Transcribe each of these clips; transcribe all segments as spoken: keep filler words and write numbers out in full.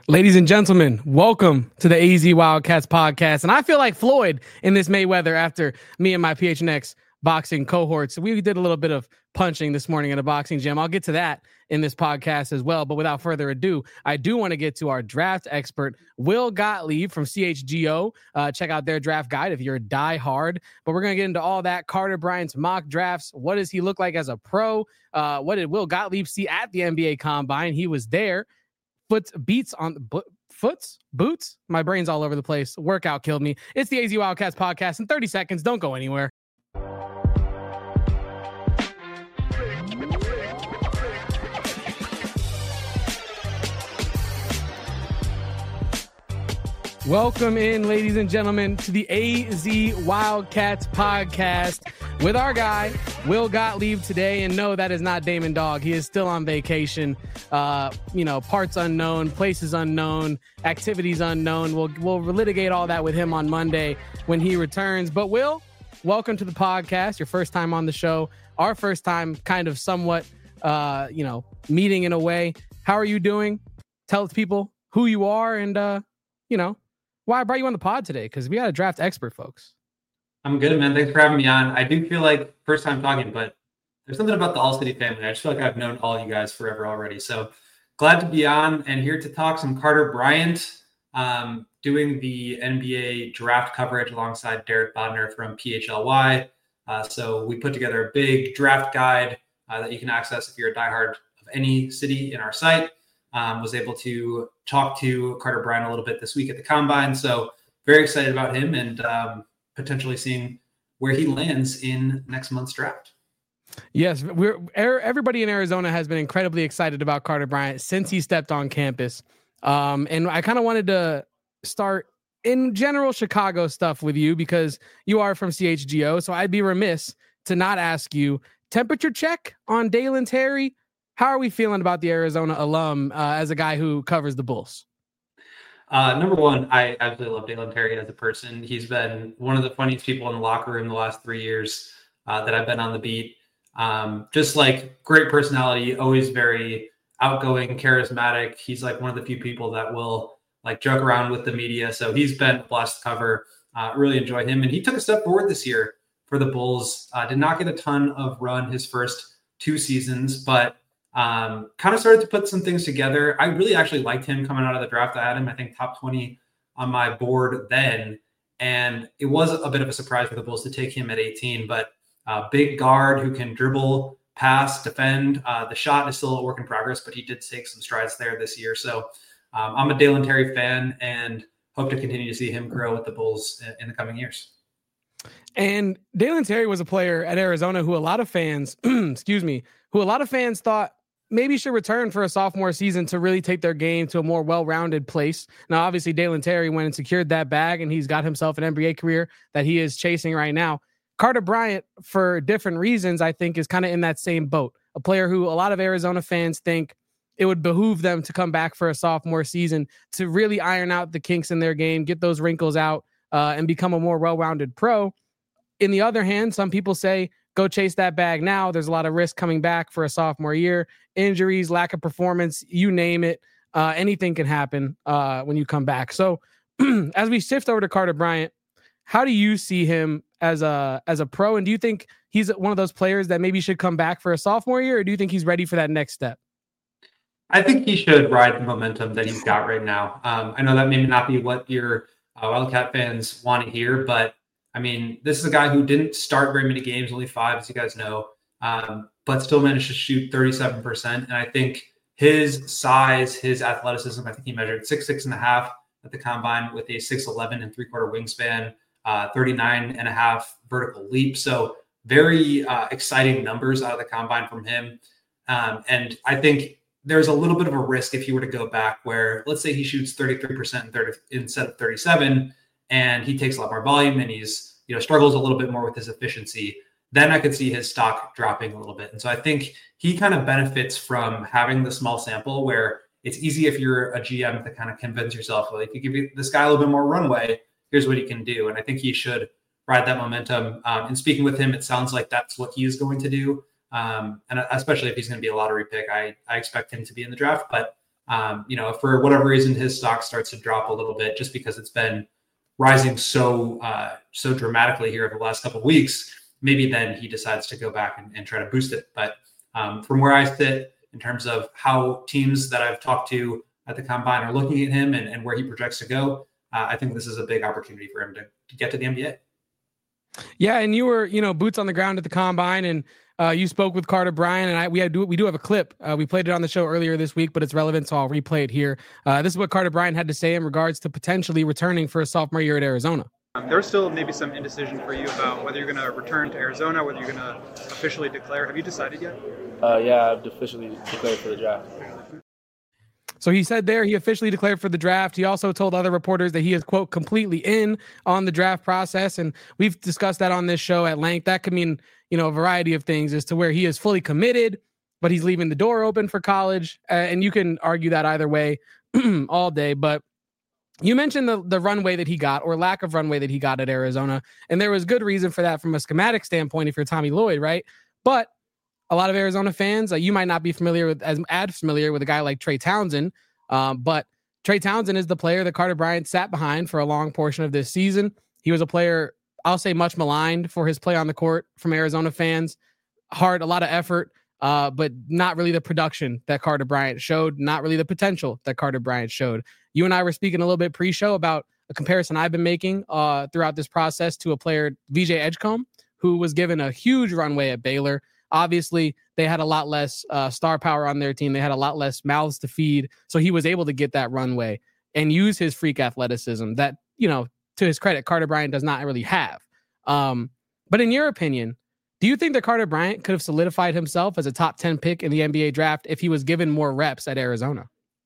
Ladies and gentlemen, welcome to the A Z Wildcats podcast. And I feel like Floyd in this Mayweather after me and my P H N X boxing cohorts. We did a little bit of punching this morning in a boxing gym. I'll get to that in this podcast as well. But without further ado, I do want to get to our draft expert, Will Gottlieb from C H G O. Uh, check out their draft guide if you're a diehard. But we're going to get into all that. Carter Bryant's mock drafts. What does he look like as a pro? Uh, what did Will Gottlieb see at the N B A Combine? He was there. Foot beats on bo- foots, boots. My brain's all over the place. Workout killed me. It's the A Z Wildcats podcast in thirty seconds. Don't go anywhere. Welcome in, ladies and gentlemen, to the A Z Wildcats podcast with our guy, Will Gottlieb, today. And no, that is not Damon Dog. He is still on vacation. Uh, you know, parts unknown, places unknown, activities unknown. We'll, we'll litigate all that with him on Monday when he returns. But Will, welcome to the podcast. Your first time on the show. Our first time kind of somewhat, uh, you know, meeting in a way. How are you doing? Tell people who you are and, uh, you know, why I brought you on the pod today, because we got a draft expert, folks. I'm good, man. Thanks for having me on. I do feel like first time talking, but there's something about the All City family. I just feel like I've known all you guys forever already. So glad to be on and here to talk some Carter Bryant, um, doing the N B A draft coverage alongside Derek Bodner from P H L Y. Uh, so we put together a big draft guide uh, that you can access if you're a diehard of any city in our site. Um, was able to talk to Carter Bryant a little bit this week at the Combine. So very excited about him and um, potentially seeing where he lands in next month's draft. Yes, we're everybody in Arizona has been incredibly excited about Carter Bryant since he stepped on campus. Um, and I kind of wanted to start in general Chicago stuff with you because you are from C H G O. So I'd be remiss to not ask you temperature check on Dalen Terry. How are we feeling about the Arizona alum uh, as a guy who covers the Bulls? Uh, number one, I absolutely love Dalen Terry as a person. He's been one of the funniest people in the locker room the last three years uh, that I've been on the beat. Um, just like great personality, always very outgoing, charismatic. He's like one of the few people that will like joke around with the media. So he's been a blast to cover. Uh, really enjoy him. And he took a step forward this year for the Bulls. Uh, did not get a ton of run his first two seasons, but Um, kind of started to put some things together. I really actually liked him coming out of the draft. I had him, I think, top twenty on my board then. And it was a bit of a surprise for the Bulls to take him at eighteen, but uh, big guard who can dribble, pass, defend. Uh, the shot is still a work in progress, but he did take some strides there this year. So um, I'm a Dalen Terry fan and hope to continue to see him grow with the Bulls in, in the coming years. And Dalen Terry was a player at Arizona who a lot of fans, excuse me, who a lot of fans thought maybe should return for a sophomore season to really take their game to a more well-rounded place. Now, obviously, Dalen Terry went and secured that bag, and he's got himself an N B A career that he is chasing right now. Carter Bryant, for different reasons, I think, is kind of in that same boat. A player who a lot of Arizona fans think it would behoove them to come back for a sophomore season to really iron out the kinks in their game, get those wrinkles out, uh, and become a more well-rounded pro. In the other hand, some people say, go chase that bag now. There's a lot of risk coming back for a sophomore year. Injuries, lack of performance, you name it. Uh, anything can happen uh, when you come back. So as we shift over to Carter Bryant, how do you see him as a as a pro? And do you think he's one of those players that maybe should come back for a sophomore year? Or do you think he's ready for that next step? I think he should ride the momentum that he's got right now. Um, I know that may not be what your uh, Wildcat fans want to hear, but I mean, this is a guy who didn't start very many games, only five, as you guys know, um, but still managed to shoot thirty-seven percent. And I think his size, his athleticism, I think he measured six, six and a half at the Combine with a six eleven and three quarter wingspan, uh, thirty-nine and a half vertical leap. So very uh, exciting numbers out of the Combine from him. Um, and I think there's a little bit of a risk if you were to go back where, let's say he shoots thirty-three percent instead of thirty-seven, and he takes a lot more volume and he's, you know, struggles a little bit more with his efficiency, then I could see his stock dropping a little bit. And so I think he kind of benefits from having the small sample where it's easy if you're a G M to kind of convince yourself, well, if you give this guy a little bit more runway, here's what he can do. And I think he should ride that momentum. Um, and speaking with him, it sounds like that's what he is going to do. Um, and especially if he's going to be a lottery pick, I, I expect him to be in the draft, but um, you know, if for whatever reason his stock starts to drop a little bit just because it's been rising so uh, so dramatically here over the last couple of weeks, maybe then he decides to go back and, and try to boost it. But um, from where I sit in terms of how teams that I've talked to at the Combine are looking at him and, and where he projects to go, uh, I think this is a big opportunity for him to, to get to the N B A. Yeah, and you were, you know, boots on the ground at the Combine, and uh, you spoke with Carter Bryant, and I we had we do have a clip. Uh, we played it on the show earlier this week, but it's relevant, so I'll replay it here. Uh, this is what Carter Bryant had to say in regards to potentially returning for a sophomore year at Arizona. Um, there's still maybe some indecision for you about whether you're going to return to Arizona, whether you're going to officially declare. Have you decided yet? Uh, yeah, I've officially declared for the draft. So he said there he officially declared for the draft. He also told other reporters that he is, quote, completely in on the draft process. And we've discussed that on this show at length. That could mean, you know, a variety of things as to where he is fully committed, but he's leaving the door open for college. Uh, and you can argue that either way all day. But you mentioned the, the runway that he got, or lack of runway that he got at Arizona. And there was good reason for that from a schematic standpoint if you're Tommy Lloyd, right? But a lot of Arizona fans, uh, you might not be familiar with as as familiar with a guy like Trey Townsend, um, but Trey Townsend is the player that Carter Bryant sat behind for a long portion of this season. He was a player, I'll say, much maligned for his play on the court from Arizona fans. Hard, a lot of effort, uh, but not really the production that Carter Bryant showed, not really the potential that Carter Bryant showed. You and I were speaking a little bit pre-show about a comparison I've been making uh, throughout this process to a player, V J Edgecombe, who was given a huge runway at Baylor. Obviously, they had a lot less uh, star power on their team. They had a lot less mouths to feed. So he was able to get that runway and use his freak athleticism that, you know, to his credit, Carter Bryant does not really have. Um, but in your opinion, do you think that Carter Bryant could have solidified himself as a top ten pick in the N B A draft if he was given more reps at Arizona?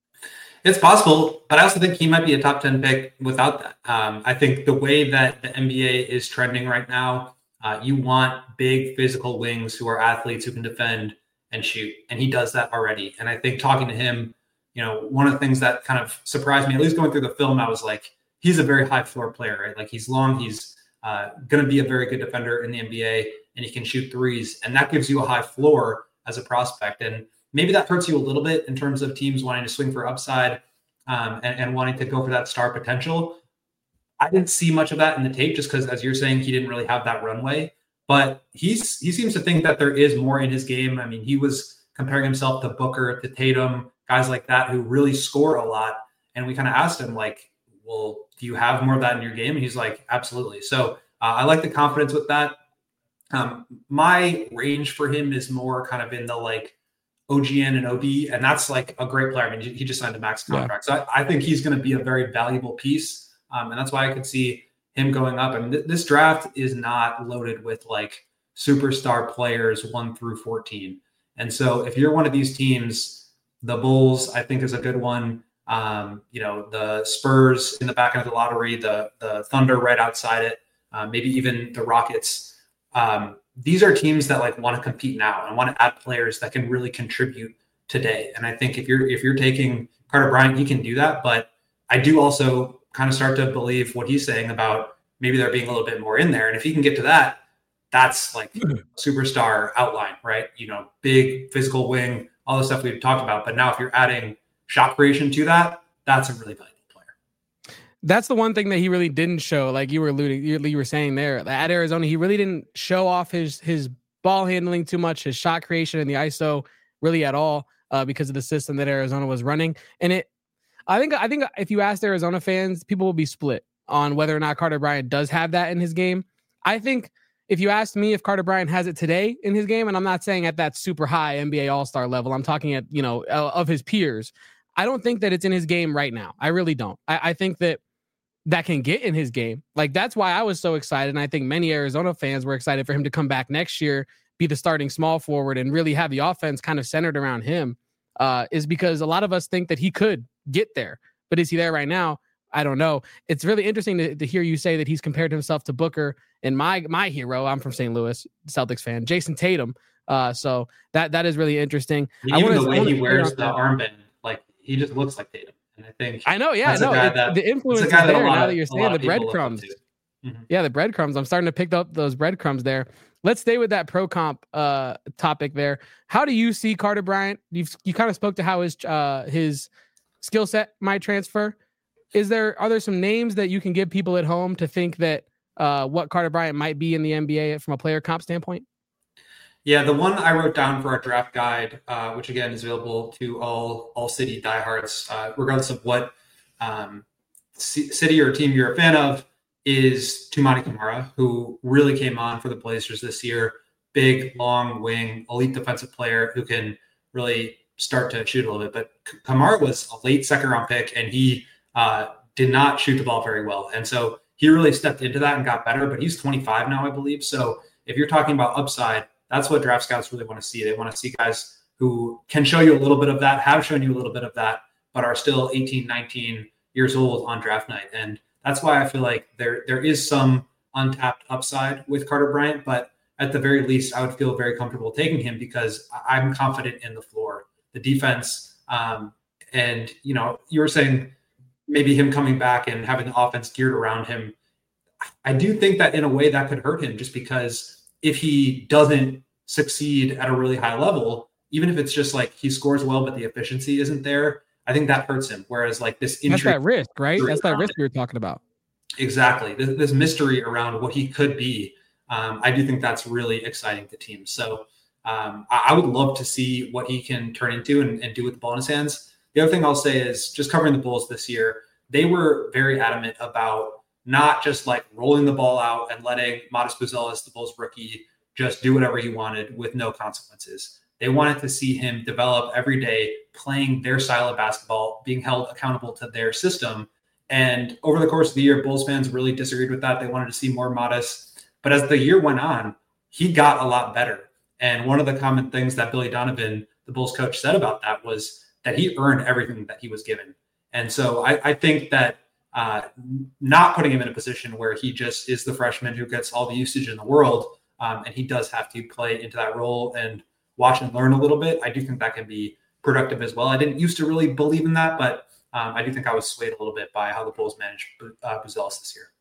It's possible, but I also think he might be a top ten pick without that. Um, I think the way that the N B A is trending right now, Uh, you want big physical wings who are athletes who can defend and shoot. And he does that already. And I think talking to him, you know, one of the things that kind of surprised me, at least going through the film, I was like, he's a very high floor player, right? Like he's long, he's uh, going to be a very good defender in the N B A, and he can shoot threes. And that gives you a high floor as a prospect. And maybe that hurts you a little bit in terms of teams wanting to swing for upside um, and, and wanting to go for that star potential. I didn't see much of that in the tape just because, as you're saying, he didn't really have that runway. But he's he seems to think that there is more in his game. I mean, he was comparing himself to Booker, to Tatum, guys like that who really score a lot. And we kind of asked him, like, well, do you have more of that in your game? And he's like, absolutely. So uh, I like the confidence with that. Um, my range for him is more kind of in the like O G N and O B, and that's like a great player. I mean, he just signed a max contract. Yeah. So I, I think he's going to be a very valuable piece. Um, and that's why I could see him going up. I mean, th- this draft is not loaded with like superstar players one through fourteen. And so if you're one of these teams, the Bulls, I think, is a good one. Um, you know, the Spurs in the back end of the lottery, the the Thunder right outside it, uh, maybe even the Rockets. Um, these are teams that like want to compete now and want to add players that can really contribute today. And I think if you're if you're taking Carter Bryant, he can do that. But I do also kind of start to believe what he's saying about maybe there being a little bit more in there. And if he can get to that, that's like superstar outline, right? You know, big physical wing, all the stuff we've talked about. But now if you're adding shot creation to that, that's a really valuable player. That's the one thing that he really didn't show. Like you were alluding, you were saying there at Arizona, he really didn't show off his, his ball handling too much, his shot creation in the I S O really at all uh, because of the system that Arizona was running. And it, I think I think if you ask Arizona fans, people will be split on whether or not Carter Bryant does have that in his game. I think if you asked me if Carter Bryant has it today in his game, and I'm not saying at that super high N B A All-Star level, I'm talking at, you know, of his peers, I don't think that it's in his game right now. I really don't. I, I think that that can get in his game. Like, that's why I was so excited, and I think many Arizona fans were excited for him to come back next year, be the starting small forward, and really have the offense kind of centered around him, uh, is because a lot of us think that he could get there. But is he there right now? I don't know. It's really interesting to, to hear you say that he's compared himself to Booker and my my hero. I'm from Saint Louis, Celtics fan, Jason Tatum. Uh, so that that is really interesting. Even I wanna, the way he wears the that. armband, like he just looks like Tatum. And I think I know, yeah, no, it, that, the influence is there now that you're saying the breadcrumbs. Mm-hmm. Yeah, the breadcrumbs. I'm starting to pick up those breadcrumbs there. Let's stay with that pro comp uh, topic there. How do you see Carter Bryant? You've, you kind of spoke to how his uh, his skill set might transfer. Is there are there some names that you can give people at home to think that uh, what Carter Bryant might be in the N B A from a player comp standpoint? Yeah, the one I wrote down for our draft guide, uh, which again is available to all all City diehards, uh, regardless of what um, c- city or team you're a fan of, is Toumani Camara, who really came on for the Blazers this year. Big, long wing, elite defensive player who can really start to shoot a little bit. But Camara was a late second round pick, and he uh, did not shoot the ball very well. And so he really stepped into that and got better. But he's twenty-five now, I believe. So if you're talking about upside, that's what draft scouts really want to see. They want to see guys who can show you a little bit of that, have shown you a little bit of that, but are still eighteen, nineteen years old on draft night. And that's why I feel like there there is some untapped upside with Carter Bryant, but at the very least, I would feel very comfortable taking him because I'm confident in the floor, the defense. Um, and, you know, you were saying maybe him coming back and having the offense geared around him. I do think that in a way that could hurt him just because if he doesn't succeed at a really high level, even if it's just like he scores well, but the efficiency isn't there, I think that hurts him. Whereas like this injury, that's that risk, right? That's that risk we were talking about. Exactly. This, this mystery around what he could be. Um, I do think that's really exciting to teams. So um, I, I would love to see what he can turn into and, and do with the ball in his hands. The other thing I'll say is just covering the Bulls this year, they were very adamant about not just like rolling the ball out and letting Matas Buzelis, the Bulls rookie, just do whatever he wanted with no consequences. They wanted to see him develop every day, playing their style of basketball, being held accountable to their system. And over the course of the year, Bulls fans really disagreed with that. They wanted to see more Matas. But as the year went on, he got a lot better. And one of the common things that Billy Donovan, the Bulls coach, said about that was that he earned everything that he was given. And so I, I think that Uh, not putting him in a position where he just is the freshman who gets all the usage in the world, um, and he does have to play into that role and watch and learn a little bit. I do think that can be productive as well. I didn't used to really believe in that, but um, I do think I was swayed a little bit by how the Bulls managed uh, Buzelis this year.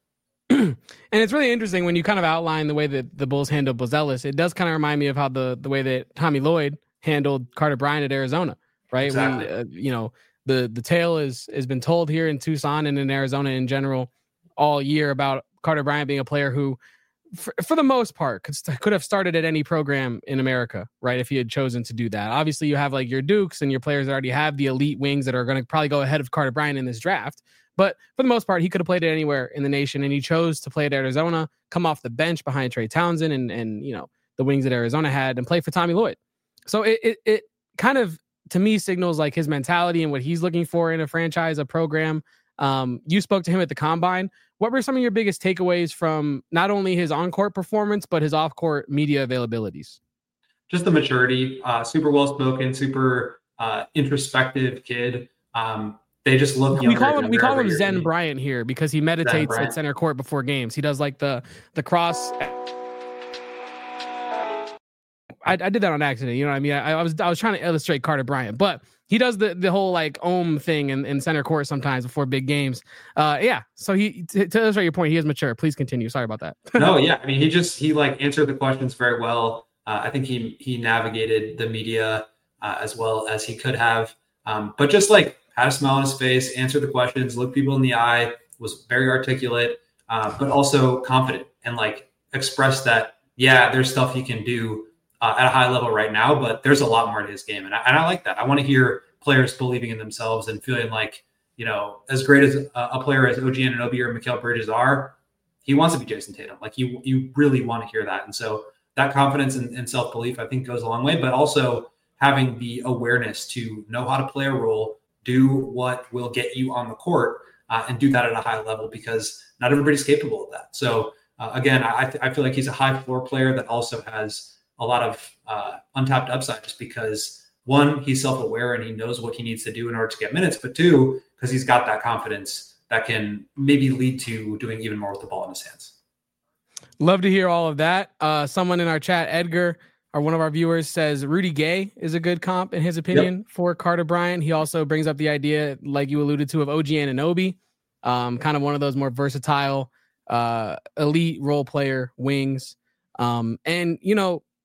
And it's really interesting when you kind of outline the way that the Bulls handled Buzelis. It does kind of remind me of how the the way that Tommy Lloyd handled Carter Bryant at Arizona, right? Exactly. We, uh, you know, The the tale is has been told here in Tucson and in Arizona in general all year about Carter Bryant being a player who, for, for the most part, could, could have started at any program in America, right? If he had chosen to do that. Obviously, you have like your Dukes and your players that already have the elite wings that are going to probably go ahead of Carter Bryant in this draft. But for the most part, he could have played it anywhere in the nation, and he chose to play at Arizona, come off the bench behind Trey Townsend and and you know the wings that Arizona had, and play for Tommy Lloyd. So it it, it kind of, to me, signals like his mentality and what he's looking for in a franchise, a program. Um, you spoke to him at the Combine. What were some of your biggest takeaways from not only his on-court performance, but his off-court media availabilities? Just the maturity, uh, super well-spoken, super uh, introspective kid. Um, they just look We call him we call him year. Zen Bryant here because he meditates at center court before games. He does like the the cross. I, I did that on accident. You know what I mean? I, I was I was trying to illustrate Carter Bryant, but he does the, the whole like Ohm thing in, in center court sometimes before big games. Uh, yeah. So he to, to illustrate your point, he is mature. Please continue. Sorry about that. No, yeah. I mean, he just he like answered the questions very well. Uh, I think he he navigated the media uh, as well as he could have, um, but just like had a smile on his face, answered the questions, looked people in the eye, was very articulate, uh, but also confident and like expressed that yeah, there's stuff he can do Uh, at a high level right now, but there's a lot more to his game. And I, and I like that. I want to hear players believing in themselves and feeling like, you know, as great as a, a player as O G Anunoby or Mikal Bridges are, he wants to be Jason Tatum. Like you, you really want to hear that. And so that confidence and, and self-belief, I think goes a long way, but also having the awareness to know how to play a role, do what will get you on the court uh, and do that at a high level because not everybody's capable of that. So uh, again, I, th- I feel like he's a high floor player that also has a lot of uh, untapped upside just because one, he's self-aware and he knows what he needs to do in order to get minutes, but two, because he's got that confidence that can maybe lead to doing even more with the ball in his hands. Love to hear all of that. Uh, someone in our chat, Edgar, or one of our viewers, says Rudy Gay is a good comp in his opinion yep. for Carter Bryant. He also brings up the idea, like you alluded to, of O G Anunoby, um, kind of one of those more versatile, uh, elite role player wings. Um, and, you know,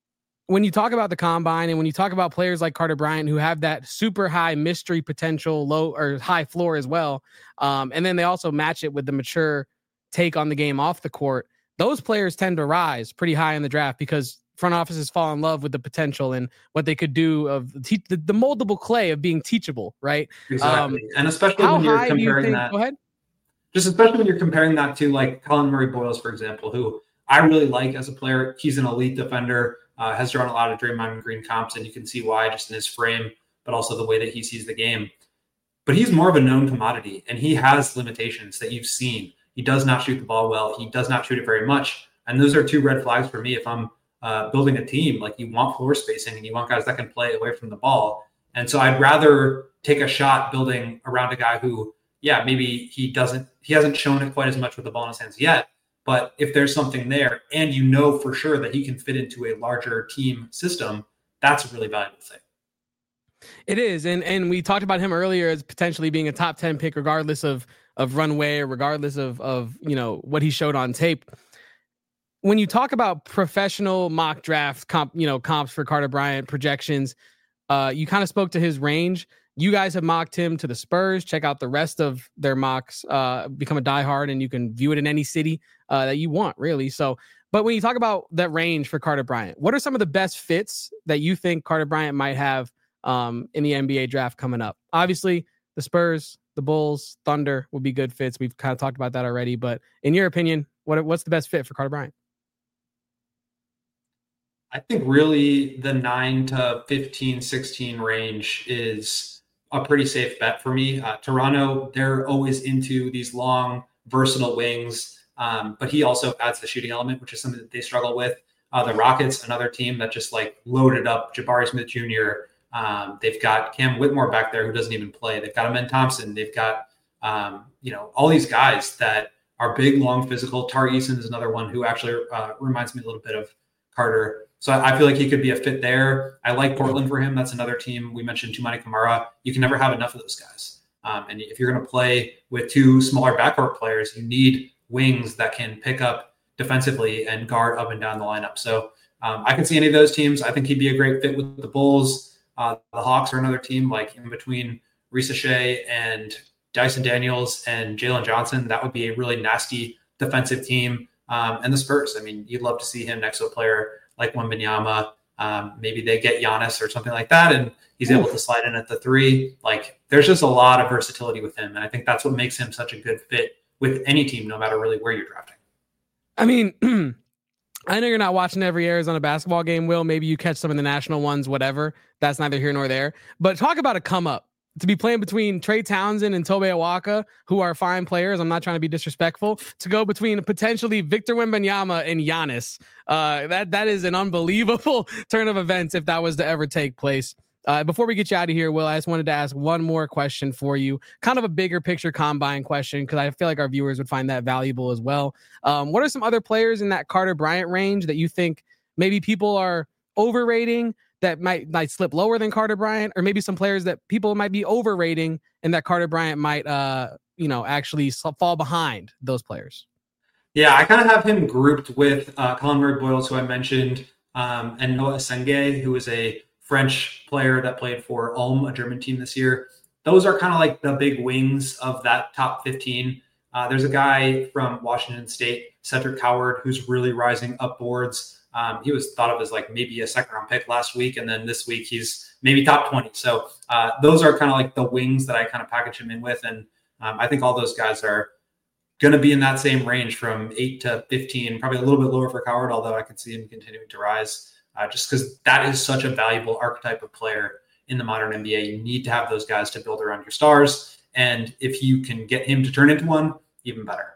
when you talk about the combine and when you talk about players like Carter Bryant who have that super high mystery potential, low or high floor as well, um, and then they also match it with the mature take on the game off the court, those players tend to rise pretty high in the draft because front offices fall in love with the potential and what they could do of te- the, the moldable clay of being teachable, right? Exactly. Um, and especially how when you're high do you comparing think, that. Go ahead. Just especially when you're comparing that to like Colin Murray Boyles, for example, who I really like as a player. He's an elite defender, uh, has drawn a lot of Draymond Green comps, and you can see why just in his frame, but also the way that he sees the game. But he's more of a known commodity, and he has limitations that you've seen. He does not shoot the ball well. He does not shoot it very much. And those are two red flags for me. If I'm uh, building a team, like you want floor spacing and you want guys that can play away from the ball. And so I'd rather take a shot building around a guy who, yeah, maybe he doesn't, he hasn't shown it quite as much with the ball in his hands yet. But if there's something there and you know for sure that he can fit into a larger team system, that's a really valuable thing. It is. And and we talked about him earlier as potentially being a top ten pick, regardless of of runway or regardless of of, you know, what he showed on tape. When you talk about professional mock draft comp, you know, comps for Carter Bryant projections, uh, you kind of spoke to his range. You guys have mocked him to the Spurs. Check out the rest of their mocks. Uh, become a diehard, and you can view it in any city uh, that you want, really. So, but when you talk about that range for Carter Bryant, what are some of the best fits that you think Carter Bryant might have um, in the N B A draft coming up? Obviously, the Spurs, the Bulls, Thunder would be good fits. We've kind of talked about that already. But in your opinion, what what's the best fit for Carter Bryant? I think really the nine to fifteen, sixteen range is a pretty safe bet for me. Uh, Toronto, they're always into these long, versatile wings, um, but he also adds the shooting element, which is something that they struggle with. Uh, the Rockets, another team that just like loaded up Jabari Smith Junior Um, they've got Cam Whitmore back there who doesn't even play. They've got Amen Thompson. They've got, um, you know, all these guys that are big, long, physical. Tari Eason is another one who actually uh, reminds me a little bit of Carter. So I feel like he could be a fit there. I like Portland for him. That's another team. We mentioned Tumani Kamara. You can never have enough of those guys. Um, and if you're going to play with two smaller backcourt players, you need wings that can pick up defensively and guard up and down the lineup. So um, I can see any of those teams. I think he'd be a great fit with the Bulls. Uh, the Hawks are another team, like in between Risa Shea and Dyson Daniels and Jalen Johnson. That would be a really nasty defensive team. Um, and the Spurs, I mean, you'd love to see him next to a player like Wembanyama. Um, maybe they get Giannis or something like that, and he's able to slide in at the three. Like, there's just a lot of versatility with him, and I think that's what makes him such a good fit with any team, no matter really where you're drafting. I mean, I know you're not watching every Arizona basketball game, Will. Maybe you catch some of the national ones, whatever. That's neither here nor there. But talk about a come up. To be playing between Trey Townsend and Tobe Awaka, who are fine players. I'm not trying to be disrespectful. To go between potentially Victor Wembanyama and Giannis. Uh, that that is an unbelievable turn of events if that was to ever take place. Uh, before we get you out of here, Will, I just wanted to ask one more question for you. Kind of a bigger picture combine question, because I feel like our viewers would find that valuable as well. Um, what are some other players in that Carter Bryant range that you think maybe people are overrating, that might might slip lower than Carter Bryant, or maybe some players that people might be overrating and that Carter Bryant might, uh, you know, actually fall behind those players? Yeah, I kind of have him grouped with uh, Colin Murray Boyles, who I mentioned, um, and Noah Senge, who is a French player that played for Ulm, a German team this year. Those are kind of like the big wings of that top fifteen. Uh, there's a guy from Washington State, Cedric Howard, who's really rising up boards. Um, he was thought of as like maybe a second round pick last week. And then this week he's maybe top twenty. So uh, those are kind of like the wings that I kind of package him in with. And um, I think all those guys are going to be in that same range from eight to fifteen, probably a little bit lower for Howard, although I can see him continuing to rise uh, just because that is such a valuable archetype of player in the modern N B A. You need to have those guys to build around your stars. And if you can get him to turn into one, even better.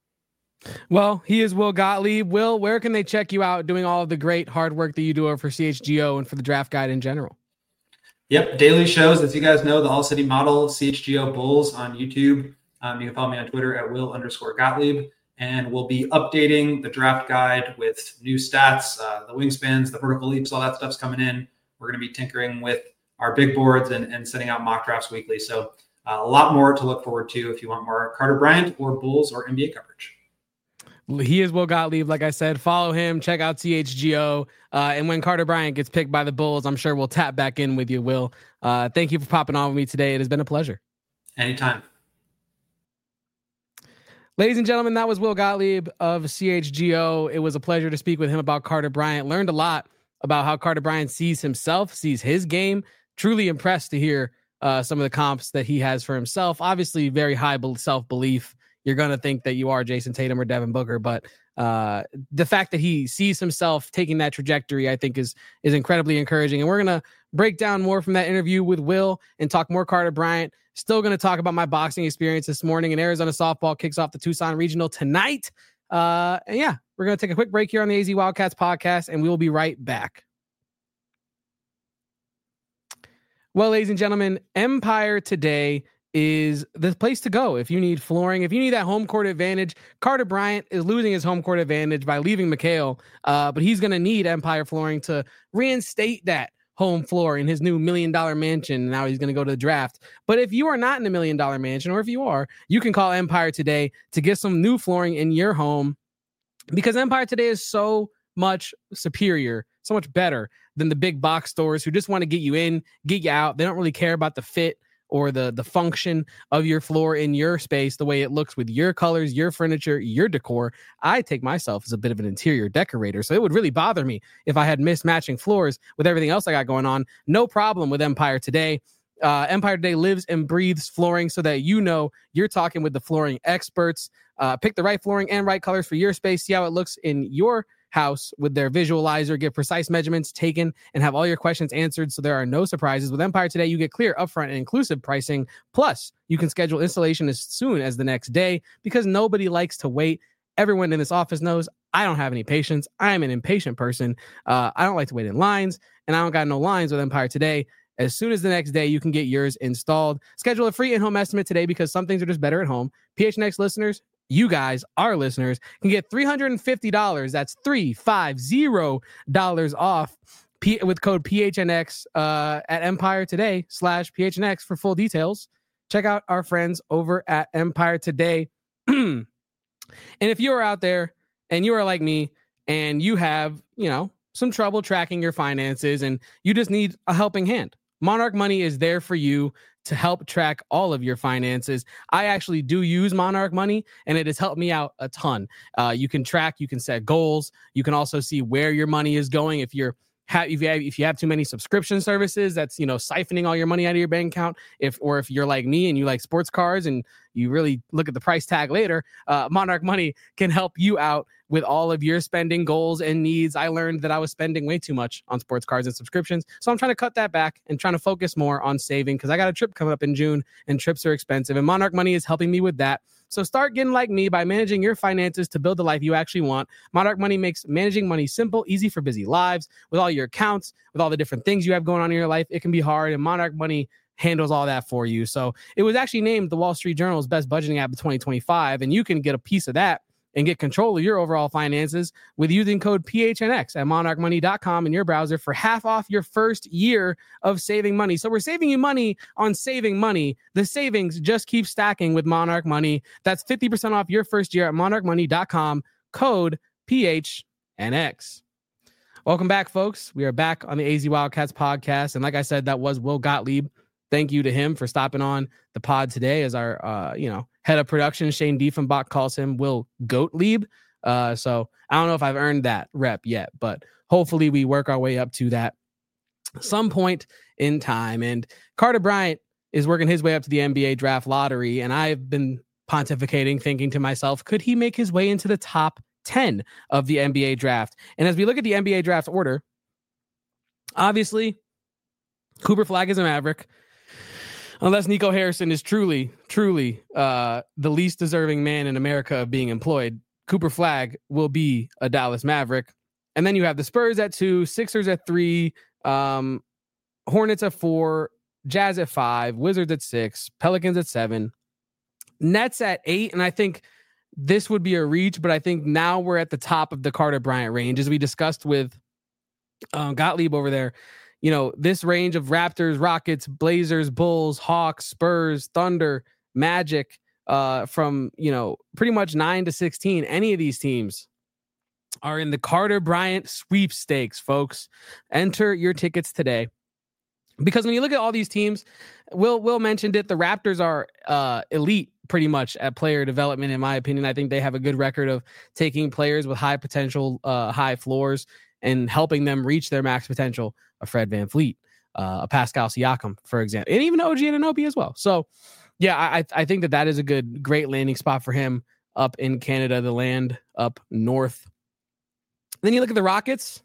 Well, he is Will Gottlieb. Will, where can they check you out doing all of the great hard work that you do over for C H G O and for the Draft Guide in general? Yep, daily shows. As you guys know, the All City Model, C H G O Bulls on YouTube. Um, you can follow me on Twitter at Will underscore Gottlieb. And we'll be updating the Draft Guide with new stats, uh, the wingspans, the vertical leaps, all that stuff's coming in. We're going to be tinkering with our big boards and, and sending out mock drafts weekly. So uh, a lot more to look forward to if you want more Carter Bryant or Bulls or N B A coverage. He is Will Gottlieb. Like I said, follow him, check out C H G O. Uh, and when Carter Bryant gets picked by the Bulls, I'm sure we'll tap back in with you, Will. Uh, thank you for popping on with me today. It has been a pleasure. Anytime. Ladies and gentlemen, that was Will Gottlieb of C H G O. It was a pleasure to speak with him about Carter Bryant. Learned a lot about how Carter Bryant sees himself, sees his game. Truly impressed to hear uh, some of the comps that he has for himself. Obviously, very high self-belief. You're going to think that you are Jason Tatum or Devin Booker, but uh, the fact that he sees himself taking that trajectory, I think is, is incredibly encouraging. And we're going to break down more from that interview with Will and talk more Carter Bryant. Still going to talk about my boxing experience this morning, and Arizona softball kicks off the Tucson Regional tonight. Uh, and yeah, we're going to take a quick break here on the A Z Wildcats podcast, and we will be right back. Well, ladies and gentlemen, Empire Today is the place to go if you need flooring, if you need that home court advantage. Carter Bryant is losing his home court advantage by leaving McHale, uh, but he's going to need Empire Flooring to reinstate that home floor in his new million dollar mansion. Now he's going to go to the draft. But if you are not in a million dollar mansion, or if you are, you can call Empire Today to get some new flooring in your home, because Empire Today is so much superior, so much better than the big box stores who just want to get you in, get you out. They don't really care about the fit or the the function of your floor in your space, the way it looks with your colors, your furniture, your decor. I take myself as a bit of an interior decorator, so it would really bother me if I had mismatching floors with everything else I got going on. No problem with Empire Today. Uh, Empire Today lives and breathes flooring, so that you know you're talking with the flooring experts. Uh, pick the right flooring and right colors for your space. See how it looks in your house with their visualizer. Get precise measurements taken and have all your questions answered, so there are no surprises. With Empire Today, you get clear, upfront, and inclusive pricing. Plus, you can schedule installation as soon as the next day, because nobody likes to wait. Everyone in this office knows I don't have any patience. I'm an impatient person. Uh, I don't like to wait in lines, and I don't got no lines with Empire Today. As soon as the next day, you can get yours installed. Schedule a free in-home estimate today, because some things are just better at home. P H N X listeners, you guys, our listeners, can get three hundred fifty dollars. That's three hundred fifty dollars off P- with code P H N X uh, at Empire Today slash P H N X for full details. Check out our friends over at Empire Today. And if you are out there and you are like me and you have, you know, some trouble tracking your finances and you just need a helping hand, Monarch Money is there for you to help track all of your finances. I actually do use Monarch Money, and it has helped me out a ton. Uh, you can track, you can set goals. You can also see where your money is going. If you're ha- if you have if you have too many subscription services, that's, you know, siphoning all your money out of your bank account. If or if you're like me and you like sports cars and you really look at the price tag later, uh, Monarch Money can help you out with all of your spending goals and needs. I learned that I was spending way too much on sports cars and subscriptions, so I'm trying to cut that back and trying to focus more on saving, because I got a trip coming up in June and trips are expensive, and Monarch Money is helping me with that. So start getting like me by managing your finances to build the life you actually want. Monarch Money makes managing money simple, easy for busy lives. With all your accounts, with all the different things you have going on in your life, it can be hard, and Monarch Money handles all that for you. So it was actually named the Wall Street Journal's best budgeting app of twenty twenty-five, and you can get a piece of that and get control of your overall finances with using code P H N X at monarch money dot com in your browser for half off your first year of saving money. So we're saving you money on saving money. The savings just keep stacking with Monarch Money. That's fifty percent off your first year at monarch money dot com, code P H N X. Welcome back, folks. We are back on the A Z Wildcats podcast. And like I said, that was Will Gottlieb. Thank you to him for stopping on the pod today as our, uh, you know, head of production. Shane Diefenbach calls him Will Gottlieb. Uh, so I don't know if I've earned that rep yet, but hopefully we work our way up to that some point in time. And Carter Bryant is working his way up to the N B A draft lottery. And I've been pontificating, thinking to myself, could he make his way into the top ten of the N B A draft? And as we look at the N B A draft order, obviously Cooper Flagg is a Maverick. Unless Nico Harrison is truly, truly uh, the least deserving man in America of being employed, Cooper Flagg will be a Dallas Maverick. And then you have the Spurs at two, Sixers at three, um, Hornets at four, Jazz at five, Wizards at six, Pelicans at seven, Nets at eight. And I think this would be a reach, but I think now we're at the top of the Carter Bryant range, as we discussed with um, Gottlieb over there. You know, this range of Raptors, Rockets, Blazers, Bulls, Hawks, Spurs, Thunder, Magic, uh, from, you know, pretty much nine to sixteen, any of these teams are in the Carter Bryant sweepstakes, folks. Enter your tickets today. Because when you look at all these teams, Will Will mentioned it, the Raptors are uh, elite pretty much at player development, in my opinion. I think they have a good record of taking players with high potential, uh, high floors, and helping them reach their max potential. A Fred VanVleet, uh, a Pascal Siakam, for example, and even O G Anunoby as well. So, yeah, I I think that that is a good, great landing spot for him up in Canada, the land up north. Then you look at the Rockets.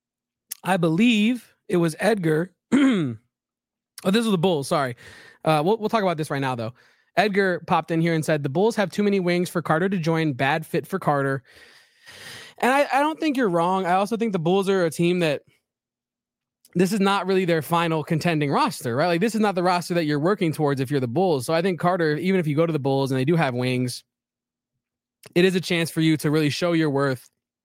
I believe it was Edgar. Oh, this was the Bulls. Sorry. Uh, we'll, we'll talk about this right now, though. Edgar popped in here and said, the Bulls have too many wings for Carter to join. Bad fit for Carter. And I, I don't think you're wrong. I also think the Bulls are a team that this is not really their final contending roster, right? Like, this is not the roster that you're working towards if you're the Bulls. So I think Carter, even if you go to the Bulls and they do have wings, it is a chance for you to really show your worth,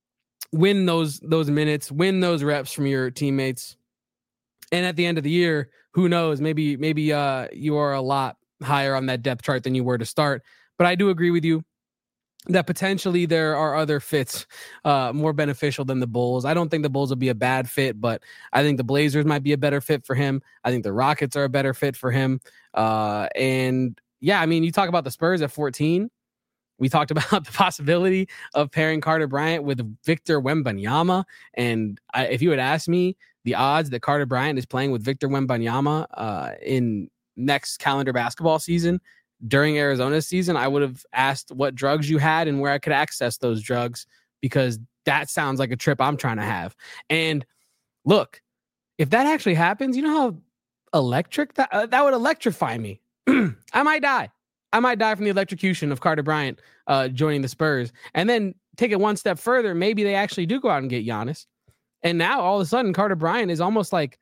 win those those minutes, win those reps from your teammates. And at the end of the year, who knows, maybe maybe uh, you are a lot higher on that depth chart than you were to start. But I do agree with you that potentially there are other fits uh, more beneficial than the Bulls. I don't think the Bulls will be a bad fit, but I think the Blazers might be a better fit for him. I think the Rockets are a better fit for him. Uh, and yeah, I mean, you talk about the Spurs at fourteen. We talked about the possibility of pairing Carter Bryant with Victor Wembanyama. And I, if you had asked me the odds that Carter Bryant is playing with Victor Wembanyama uh, in next calendar basketball season during Arizona's season, I would have asked what drugs you had and where I could access those drugs, because that sounds like a trip I'm trying to have. And look, if that actually happens, you know how electric that, uh, that would electrify me. I might die. I might die from the electrocution of Carter Bryant uh, joining the Spurs. And then take it one step further. Maybe they actually do go out and get Giannis. And now all of a sudden, Carter Bryant is almost like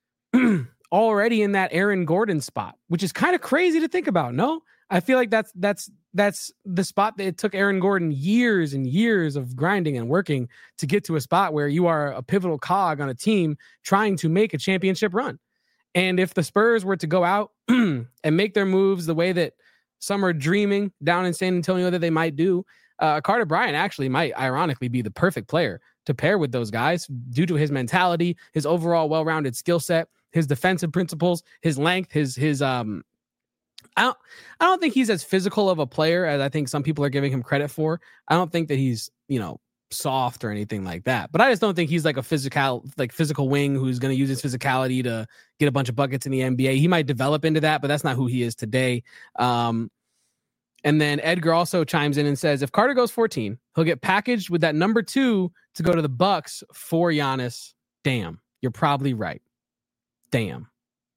already in that Aaron Gordon spot, which is kind of crazy to think about. No, I feel like that's that's that's the spot that it took Aaron Gordon years and years of grinding and working to get to a spot where you are a pivotal cog on a team trying to make a championship run. And if the Spurs were to go out and make their moves the way that some are dreaming down in San Antonio that they might do, uh, Carter Bryant actually might ironically be the perfect player to pair with those guys due to his mentality, his overall well-rounded skill set, his defensive principles, his length, his, his, um, I don't, I don't think he's as physical of a player as I think some people are giving him credit for. I don't think that he's, you know, soft or anything like that, but I just don't think he's like a physical, like physical wing who's going to use his physicality to get a bunch of buckets in the N B A. He might develop into that, but that's not who he is today. Um, and then Edgar also chimes in and says, if Carter goes fourteen, he'll get packaged with that number two to go to the Bucks for Giannis. Damn, you're probably right. Damn.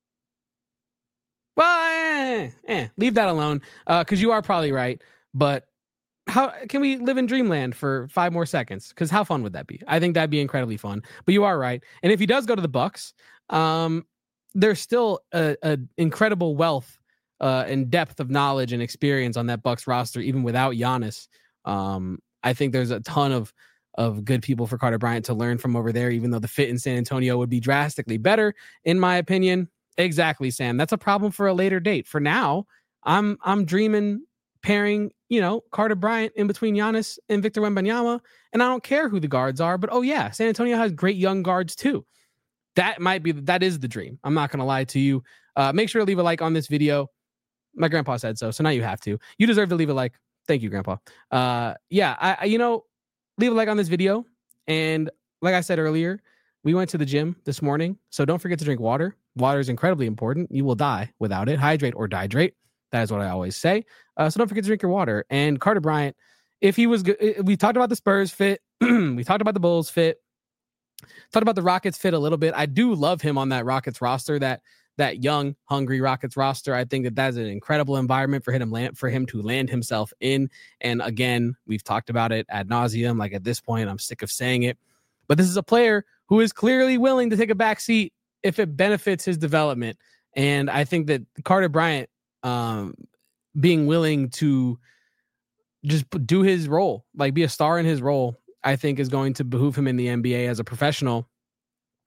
Well, eh, eh, leave that alone because uh, you are probably right. But how can we live in dreamland for five more seconds? Because how fun would that be? I think that'd be incredibly fun. But you are right. And if he does go to the Bucks, um, there's still a, a incredible wealth uh, and depth of knowledge and experience on that Bucks roster, even without Giannis. Um, I think there's a ton of of good people for Carter Bryant to learn from over there, even though the fit in San Antonio would be drastically better, in my opinion. Exactly, Sam. That's a problem for a later date. For now, I'm I'm dreaming pairing, you know, Carter Bryant in between Giannis and Victor Wembanyama, and I don't care who the guards are, but oh yeah, San Antonio has great young guards too. That might be, that is the dream. I'm not going to lie to you. Uh, make sure to leave a like on this video. My grandpa said so, so now you have to. You deserve to leave a like. Thank you, Grandpa. Uh, yeah, I, I you know, leave a like on this video. And like I said earlier, we went to the gym this morning, so don't forget to drink water. Water is incredibly important. You will die without it. Hydrate or dihydrate. That is what I always say. Uh, so don't forget to drink your water. And Carter Bryant, if he was good, we talked about the Spurs fit. We talked about the Bulls fit. Talked about the Rockets fit a little bit. I do love him on that Rockets roster, that that young, hungry Rockets roster. I think that that's an incredible environment for him, land, for him to land himself in. And again, we've talked about it ad nauseum. Like at this point, I'm sick of saying it. But this is a player who is clearly willing to take a back seat if it benefits his development. And I think that Carter Bryant um, being willing to just do his role, like be a star in his role, I think is going to behoove him in the N B A as a professional.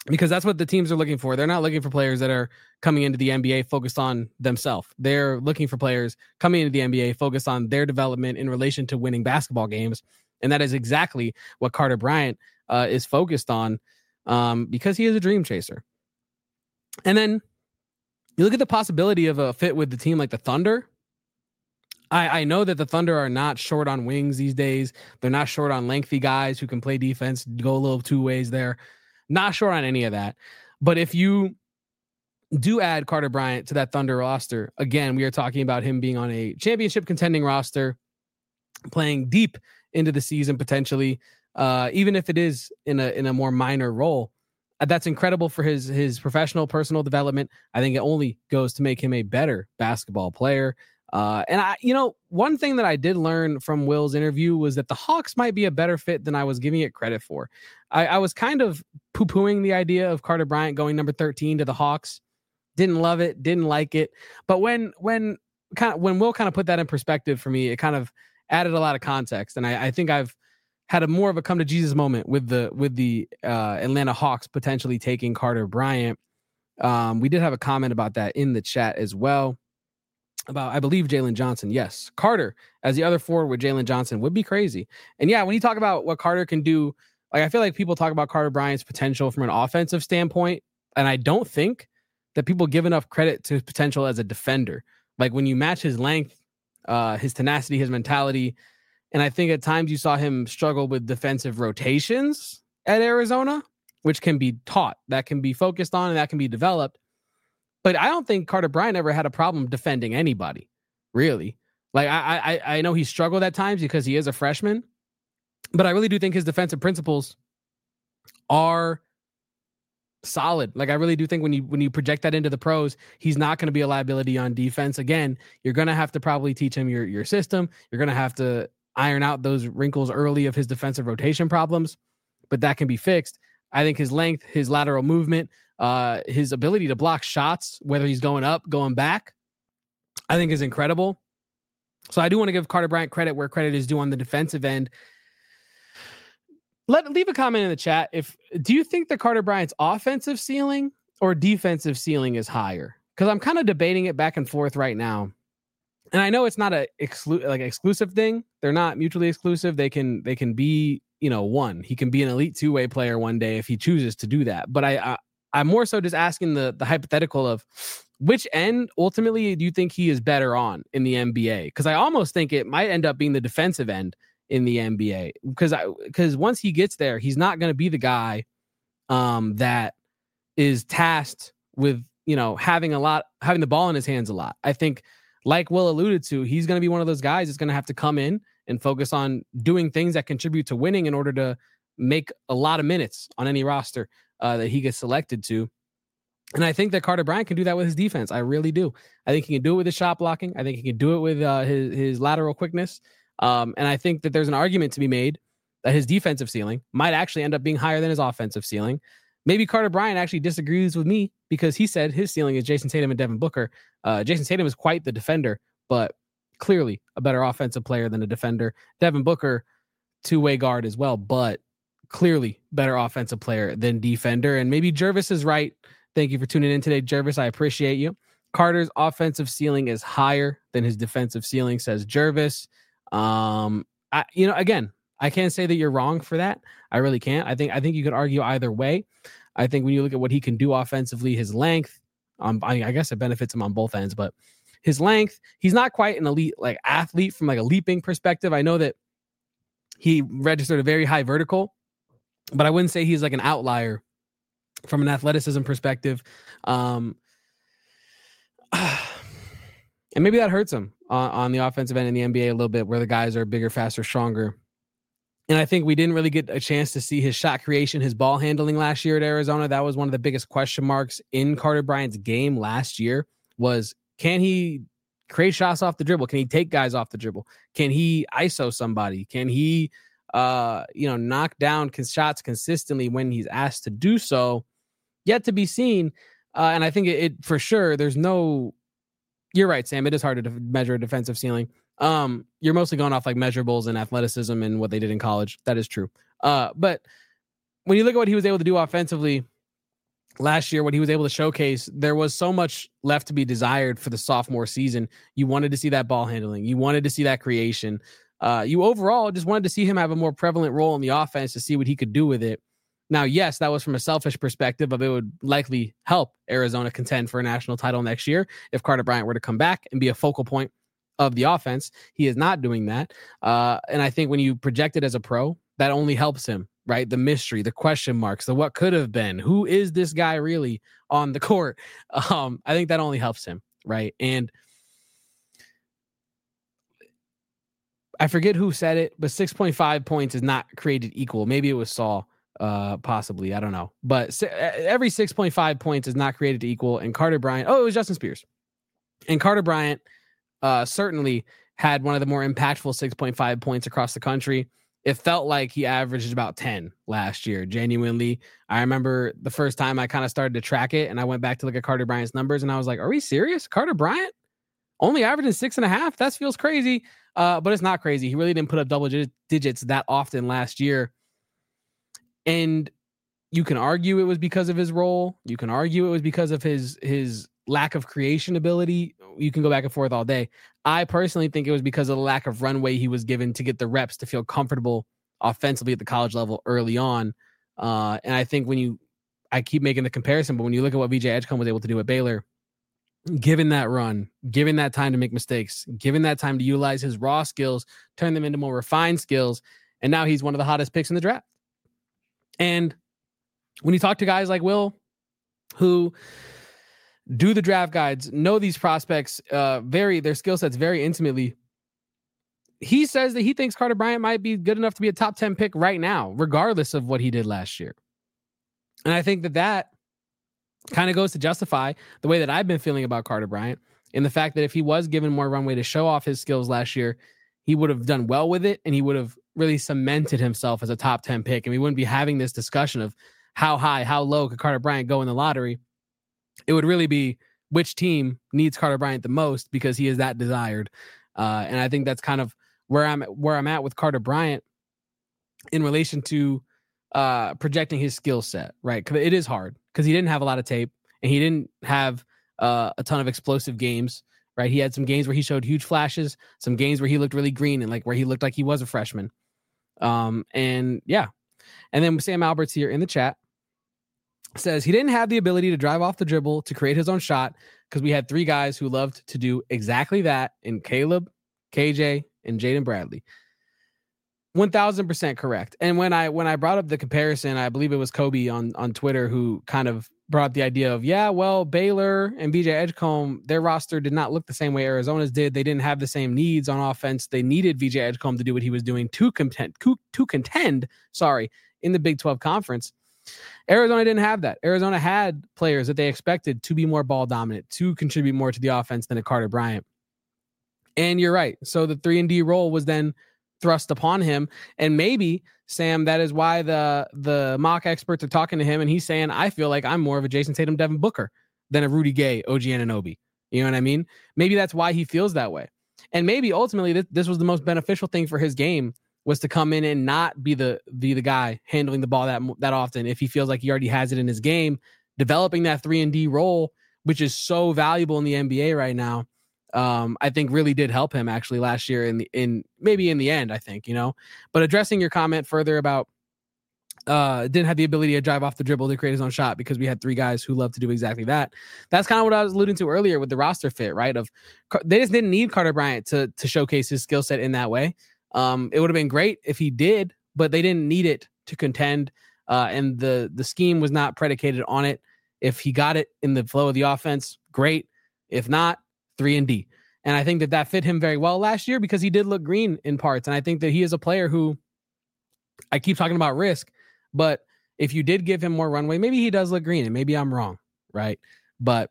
because that's what the teams are looking for. They're not looking for players that are coming into the N B A focused on themselves. They're looking for players coming into the N B A focused on their development in relation to winning basketball games. And that is exactly what Carter Bryant uh, is focused on um, because he is a dream chaser. And then you look at the possibility of a fit with the team like the Thunder. I, I know that the Thunder are not short on wings these days. They're not short on lengthy guys who can play defense, go a little two ways there. Not short on any of that. But if you do add Carter Bryant to that Thunder roster, again, we are talking about him being on a championship contending roster, playing deep into the season potentially, uh, even if it is in a in a more minor role. That's incredible for his his professional, personal development. I think it only goes to make him a better basketball player. Uh, and I, you know, one thing that I did learn from Will's interview was that the Hawks might be a better fit than I was giving it credit for. I, I was kind of poo-pooing the idea of Carter Bryant going number thirteen to the Hawks. Didn't love it, didn't like it. But when when kind of when Will kind of put that in perspective for me, it kind of added a lot of context. And I, I think I've had a more of a come to Jesus moment with the with the uh, Atlanta Hawks potentially taking Carter Bryant. Um, we did have a comment about that in the chat as well. About, I believe, Jalen Johnson. Yes, Carter as the other forward with Jalen Johnson would be crazy. And yeah, when you talk about what Carter can do, like I feel like people talk about Carter Bryant's potential from an offensive standpoint, and I don't think that people give enough credit to his potential as a defender. Like when you match his length, uh, his tenacity, his mentality, and I think at times you saw him struggle with defensive rotations at Arizona, which can be taught, that can be focused on, and that can be developed. But I don't think Carter Bryant ever had a problem defending anybody, really. Like I, I, I know he struggled at times because he is a freshman, but I really do think his defensive principles are solid. Like I really do think when you when you project that into the pros, he's not going to be a liability on defense. Again, you're going to have to probably teach him your your system. You're going to have to iron out those wrinkles early of his defensive rotation problems, but that can be fixed. I think his length, his lateral movement, uh, his ability to block shots, whether he's going up, going back, I think is incredible. So I do want to give Carter Bryant credit where credit is due on the defensive end. Let leave a comment in the chat. If do you think that Carter Bryant's offensive ceiling or defensive ceiling is higher? Because I'm kind of debating it back and forth right now. And I know it's not a exclu- like exclusive thing. They're not mutually exclusive. They can they can be, you know, one. He can be an elite two-way player one day if he chooses to do that. But I, I I'm more so just asking the the hypothetical of which end ultimately do you think he is better on in the N B A? Because I almost think it might end up being the defensive end in the N B A. Because I because once he gets there, he's not going to be the guy um, that is tasked with, you know, having a lot, having the ball in his hands a lot. I think, like Will alluded to, he's going to be one of those guys that's going to have to come in and focus on doing things that contribute to winning in order to make a lot of minutes on any roster uh, that he gets selected to. And I think that Carter Bryant can do that with his defense. I really do. I think he can do it with his shot blocking. I think he can do it with uh, his, his lateral quickness. Um, and I think that there's an argument to be made that his defensive ceiling might actually end up being higher than his offensive ceiling. Maybe Carter Bryant actually disagrees with me because he said his ceiling is Jason Tatum and Devin Booker. Uh, Jason Tatum is quite the defender, but clearly a better offensive player than a defender. Devin Booker, two-way guard as well, but clearly better offensive player than defender. And maybe Jervis is right. Thank you for tuning in today, Jervis. I appreciate you. Carter's offensive ceiling is higher than his defensive ceiling, says Jervis. Um, I, you know, again, I can't say that you're wrong for that. I really can't. I think I think you could argue either way. I think when you look at what he can do offensively, his length, um, I, I guess it benefits him on both ends, but his length, he's not quite an elite like athlete from like a leaping perspective. I know that he registered a very high vertical, but I wouldn't say he's like an outlier from an athleticism perspective. Um, and maybe that hurts him on, on the offensive end in the N B A a little bit, where the guys are bigger, faster, stronger. And I think we didn't really get a chance to see his shot creation, his ball handling last year at Arizona. That was one of the biggest question marks in Carter Bryant's game last year was, can he create shots off the dribble? Can he take guys off the dribble? Can he I S O somebody? Can he, uh, you know, knock down shots consistently when he's asked to do so? Yet to be seen. Uh, and I think it, it for sure, there's no, you're right, Sam. It is hard to def- measure a defensive ceiling. Um, you're mostly going off like measurables and athleticism and what they did in college. That is true. Uh, but when you look at what he was able to do offensively last year, what he was able to showcase, there was so much left to be desired for the sophomore season. You wanted to see that ball handling. You wanted to see that creation. Uh, you overall just wanted to see him have a more prevalent role in the offense to see what he could do with it. Now, yes, that was from a selfish perspective of it would likely help Arizona contend for a national title next year if Carter Bryant were to come back and be a focal point of the offense. He is not doing that. Uh, and I think when you project it as a pro, that only helps him, right? The mystery, the question marks, the what could have been, who is this guy really on the court? Um, I think that only helps him, right? And I forget who said it, but six point five points is not created equal. Maybe it was Saul. Uh, possibly, I don't know, but every six point five points is not created equal. And Carter Bryant, oh, it was Justin Spears, and Carter Bryant uh, certainly had one of the more impactful six point five points across the country. It felt like he averaged about ten last year. Genuinely, I remember the first time I kind of started to track it, and I went back to look at Carter Bryant's numbers, and I was like, "Are we serious? Carter Bryant only averaging six and a half? That feels crazy." Uh, but it's not crazy. He really didn't put up double digits that often last year. And you can argue it was because of his role. You can argue it was because of his his lack of creation ability. You can go back and forth all day. I personally think it was because of the lack of runway he was given to get the reps to feel comfortable offensively at the college level early on. Uh, and I think when you, I keep making the comparison, but when you look at what V J Edgecombe was able to do at Baylor, given that run, given that time to make mistakes, given that time to utilize his raw skills, turn them into more refined skills, and now he's one of the hottest picks in the draft. And when you talk to guys like Will, who do the draft guides, know these prospects, uh, very their skill sets very intimately, he says that he thinks Carter Bryant might be good enough to be a top ten pick right now, regardless of what he did last year. And I think that that kind of goes to justify the way that I've been feeling about Carter Bryant, in the fact that if he was given more runway to show off his skills last year, he would have done well with it, and he would have really cemented himself as a top ten pick. And we wouldn't be having this discussion of how high, how low could Carter Bryant go in the lottery. It would really be which team needs Carter Bryant the most, because he is that desired. Uh, and I think that's kind of where I'm where I'm at with Carter Bryant in relation to uh, projecting his skill set, right? Because it is hard, because he didn't have a lot of tape, and he didn't have uh, a ton of explosive games, right? He had some games where he showed huge flashes, some games where he looked really green, and like where he looked like he was a freshman. Um, and yeah. And then Sam Alberts here in the chat says he didn't have the ability to drive off the dribble to create his own shot, because we had three guys who loved to do exactly that in Caleb, K J, and Jaden Bradley. one thousand percent correct. And when I when I brought up the comparison, I believe it was Kobe on, on Twitter who kind of brought up the idea of, yeah, well, Baylor and V J Edgecombe, their roster did not look the same way Arizona's did. They didn't have the same needs on offense. They needed V J Edgecombe to do what he was doing to contend, to contend, sorry, in the Big twelve Conference. Arizona didn't have that. Arizona had players that they expected to be more ball dominant, to contribute more to the offense than a Carter Bryant. And you're right. So the three and D role was then thrust upon him. And maybe, Sam, that is why the the mock experts are talking to him, and he's saying, I feel like I'm more of a Jason Tatum, Devin Booker than a Rudy Gay, O G Anunoby. You know what I mean? Maybe that's why he feels that way. And maybe ultimately this, this was the most beneficial thing for his game, was to come in and not be the be the guy handling the ball that that often. If he feels like he already has it in his game, developing that three and D role, which is so valuable in the N B A right now, um, I think really did help him actually last year in the in maybe in the end, I think, you know. But addressing your comment further about uh, didn't have the ability to drive off the dribble to create his own shot because we had three guys who love to do exactly that. That's kind of what I was alluding to earlier with the roster fit, right? Of they just didn't need Carter Bryant to to showcase his skill set in that way. Um, it would have been great if he did, but they didn't need it to contend. Uh, and the the scheme was not predicated on it. If he got it in the flow of the offense, great. If not, three and D. And I think that that fit him very well last year because he did look green in parts. And I think that he is a player who, I keep talking about risk, but if you did give him more runway, maybe he does look green, and maybe I'm wrong, right? But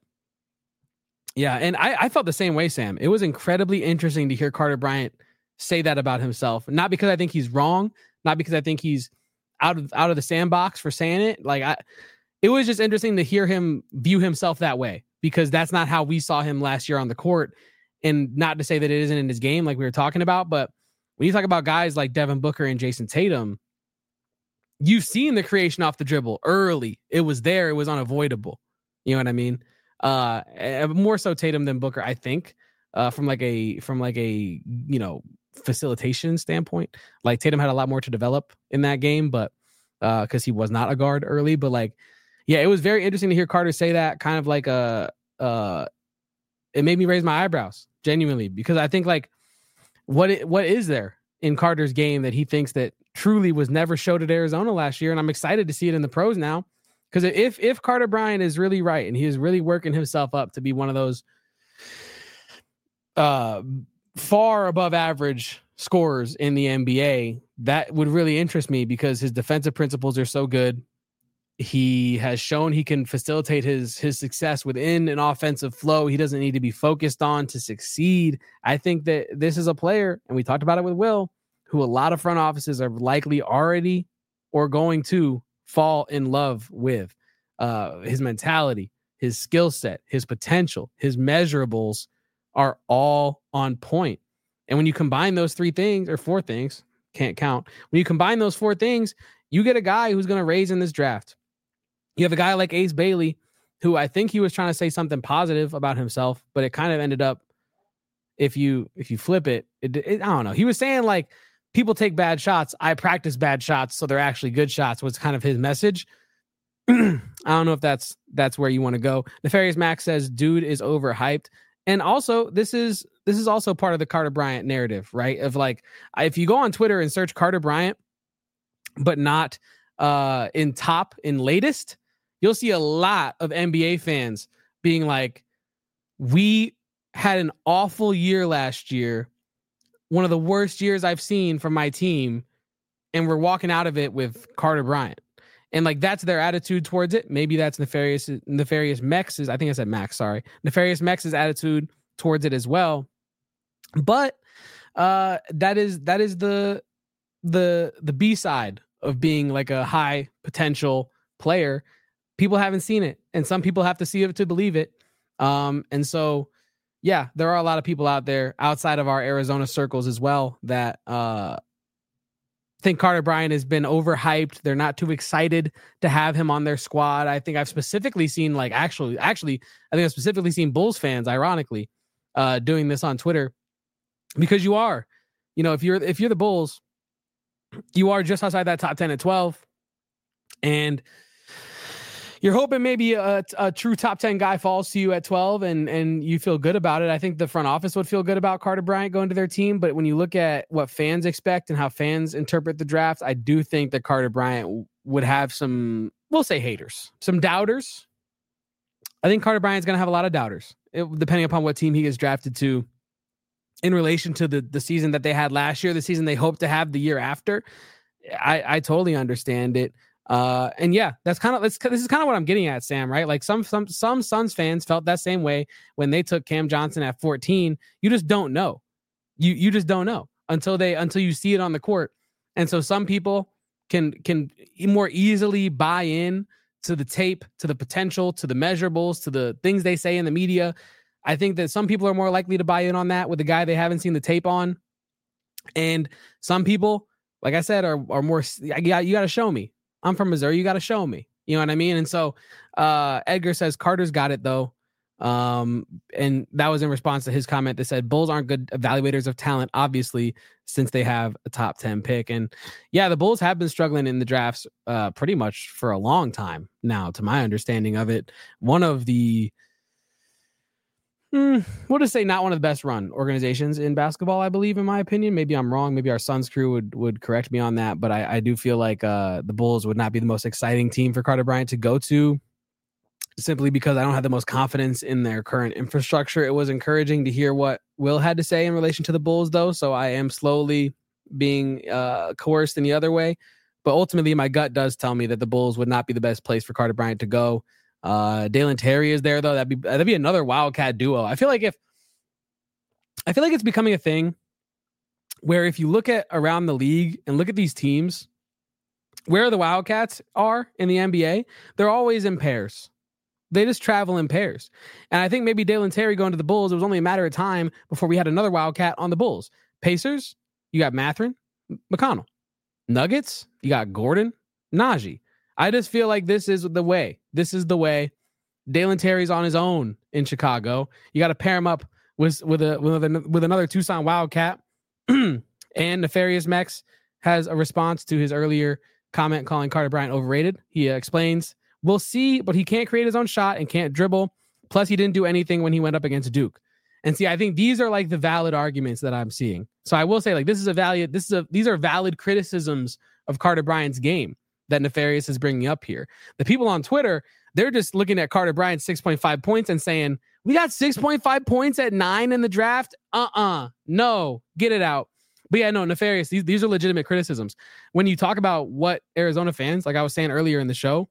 yeah, and I, I felt the same way, Sam. It was incredibly interesting to hear Carter Bryant say that about himself. Not because I think he's wrong, not because I think he's out of out of the sandbox for saying it. Like I, it was just interesting to hear him view himself that way, because that's not how we saw him last year on the court. And not to say that it isn't in his game, like we were talking about, but when you talk about guys like Devin Booker and Jason Tatum, you've seen the creation off the dribble early. It was there. It was unavoidable. You know what I mean? Uh, more so Tatum than Booker, I think, uh, from like a from like a you know facilitation standpoint. Like Tatum had a lot more to develop in that game, but because uh, he was not a guard early. But like, yeah, it was very interesting to hear Carter say that. Kind of like a, uh, it made me raise my eyebrows genuinely, because I think like, what it, what is there in Carter's game that he thinks that truly was never showed at Arizona last year? And I'm excited to see it in the pros now. Because if if Carter Bryant is really right and he is really working himself up to be one of those uh, far above average scorers in the N B A, that would really interest me, because his defensive principles are so good. He has shown he can facilitate his his success within an offensive flow he doesn't need to be focused on to succeed. I think that this is a player, and we talked about it with Will, who a lot of front offices are likely already or going to fall in love with. Uh, his mentality, his skill set, his potential, his measurables are all on point. And when you combine those three things, or four things, can't count. When you combine those four things, you get a guy who's going to raise in this draft. You have a guy like Ace Bailey, who I think he was trying to say something positive about himself, but it kind of ended up, if you if you flip it, it, it I don't know. He was saying like, people take bad shots. I practice bad shots, so they're actually good shots, was kind of his message. I don't know if that's that's where you want to go. Nefarious Max says, dude is overhyped. And also, this is this is also part of the Carter Bryant narrative, right? Of like, if you go on Twitter and search Carter Bryant, but not uh, in top, in latest, you'll see a lot of N B A fans being like, we had an awful year last year, one of the worst years I've seen from my team, and we're walking out of it with Carter Bryant. And like, that's their attitude towards it. Maybe that's Nefarious Nefarious Mex's, I think I said Max, sorry. Nefarious Mex's attitude towards it as well. But uh, that is that is the the the B-side of being like a high potential player. People haven't seen it, and some people have to see it to believe it. Um, and so yeah, there are a lot of people out there outside of our Arizona circles as well that uh, think Carter Bryant has been overhyped. They're not too excited to have him on their squad. I think I've specifically seen like actually, actually, I think I've specifically seen Bulls fans, ironically, uh, doing this on Twitter, because you are, you know, if you're if you're the Bulls, you are just outside that top ten at twelve, and you're hoping maybe a, a true top ten guy falls to you at twelve and, and you feel good about it. I think the front office would feel good about Carter Bryant going to their team. But when you look at what fans expect and how fans interpret the draft, I do think that Carter Bryant w- would have some, we'll say haters, some doubters. I think Carter Bryant's going to have a lot of doubters, it, depending upon what team he gets drafted to in relation to the, the season that they had last year, the season they hope to have the year after. I, I totally understand it. Uh, and yeah, that's kind of, this is kind of what I'm getting at, Sam, right? Like some, some, some Suns fans felt that same way when they took Cam Johnson at fourteen. You just don't know. You, you just don't know until they, until you see it on the court. And so some people can, can more easily buy in to the tape, to the potential, to the measurables, to the things they say in the media. I think that some people are more likely to buy in on that with the guy they haven't seen the tape on. And some people, like I said, are, are more, you got, you got to show me. I'm from Missouri. You got to show me. You know what I mean? And so uh, Edgar says Carter's got it, though. Um, and that was in response to his comment that said Bulls aren't good evaluators of talent, obviously, since they have a top ten pick. And yeah, the Bulls have been struggling in the drafts uh, pretty much for a long time now, to my understanding of it. One of the Hmm, we'll just say not one of the best run organizations in basketball, I believe, in my opinion. Maybe I'm wrong. Maybe our Suns crew would, would correct me on that. But I, I do feel like uh, the Bulls would not be the most exciting team for Carter Bryant to go to, simply because I don't have the most confidence in their current infrastructure. It was encouraging to hear what Will had to say in relation to the Bulls, though. So I am slowly being uh, coerced in the other way. But ultimately, my gut does tell me that the Bulls would not be the best place for Carter Bryant to go. Uh, Dalen Terry is there, though. That'd be that'd be another Wildcat duo. I feel like if I feel like it's becoming a thing where if you look at around the league and look at these teams, where the Wildcats are in the N B A, they're always in pairs. They just travel in pairs. And I think maybe Dalen Terry going to the Bulls, it was only a matter of time before we had another Wildcat on the Bulls. Pacers, you got Mathurin, McConnell. Nuggets, you got Gordon, Najee. I just feel like this is the way. This is the way. Dalen Terry's on his own in Chicago. You got to pair him up with with a with, a, with another Tucson Wildcat. And Nefarious Mex has a response to his earlier comment calling Carter Bryant overrated. He uh, explains, "We'll see, but he can't create his own shot and can't dribble. Plus, he didn't do anything when he went up against Duke." And see, I think these are like the valid arguments that I'm seeing. So I will say, like, this is a valid. This is a these are valid criticisms of Carter Bryant's game that Nefarious is bringing up here. The people on Twitter, they're just looking at Carter Bryant's six point five points and saying, we got six point five points at nine in the draft? Uh-uh. No. Get it out. But yeah, no, Nefarious, these, these are legitimate criticisms. When you talk about what Arizona fans, like I was saying earlier in the show,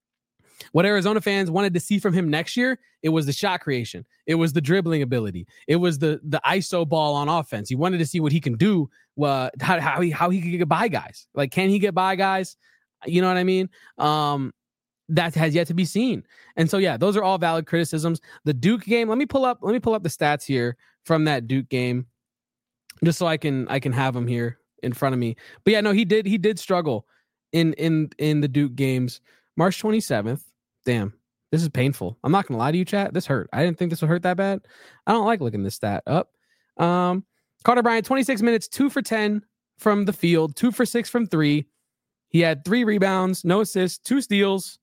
what Arizona fans wanted to see from him next year, it was the shot creation. It was the dribbling ability. It was the the I S O ball on offense. You wanted to see what he can do, uh, how, how, he, how he can get by guys. Like, can he get by guys? You know what I mean? Um, that has yet to be seen. And so, yeah, those are all valid criticisms. The Duke game, let me pull up, let me pull up the stats here from that Duke game, just so I can, I can have them here in front of me. But yeah, no, he did, he did struggle in, in, in the Duke games. March twenty-seventh. Damn, this is painful. I'm not going to lie to you, chat. This hurt. I didn't think this would hurt that bad. I don't like looking this stat up. Um, Carter Bryant, twenty-six minutes, two for ten from the field, two for six from three. He had three rebounds, no assists, two steals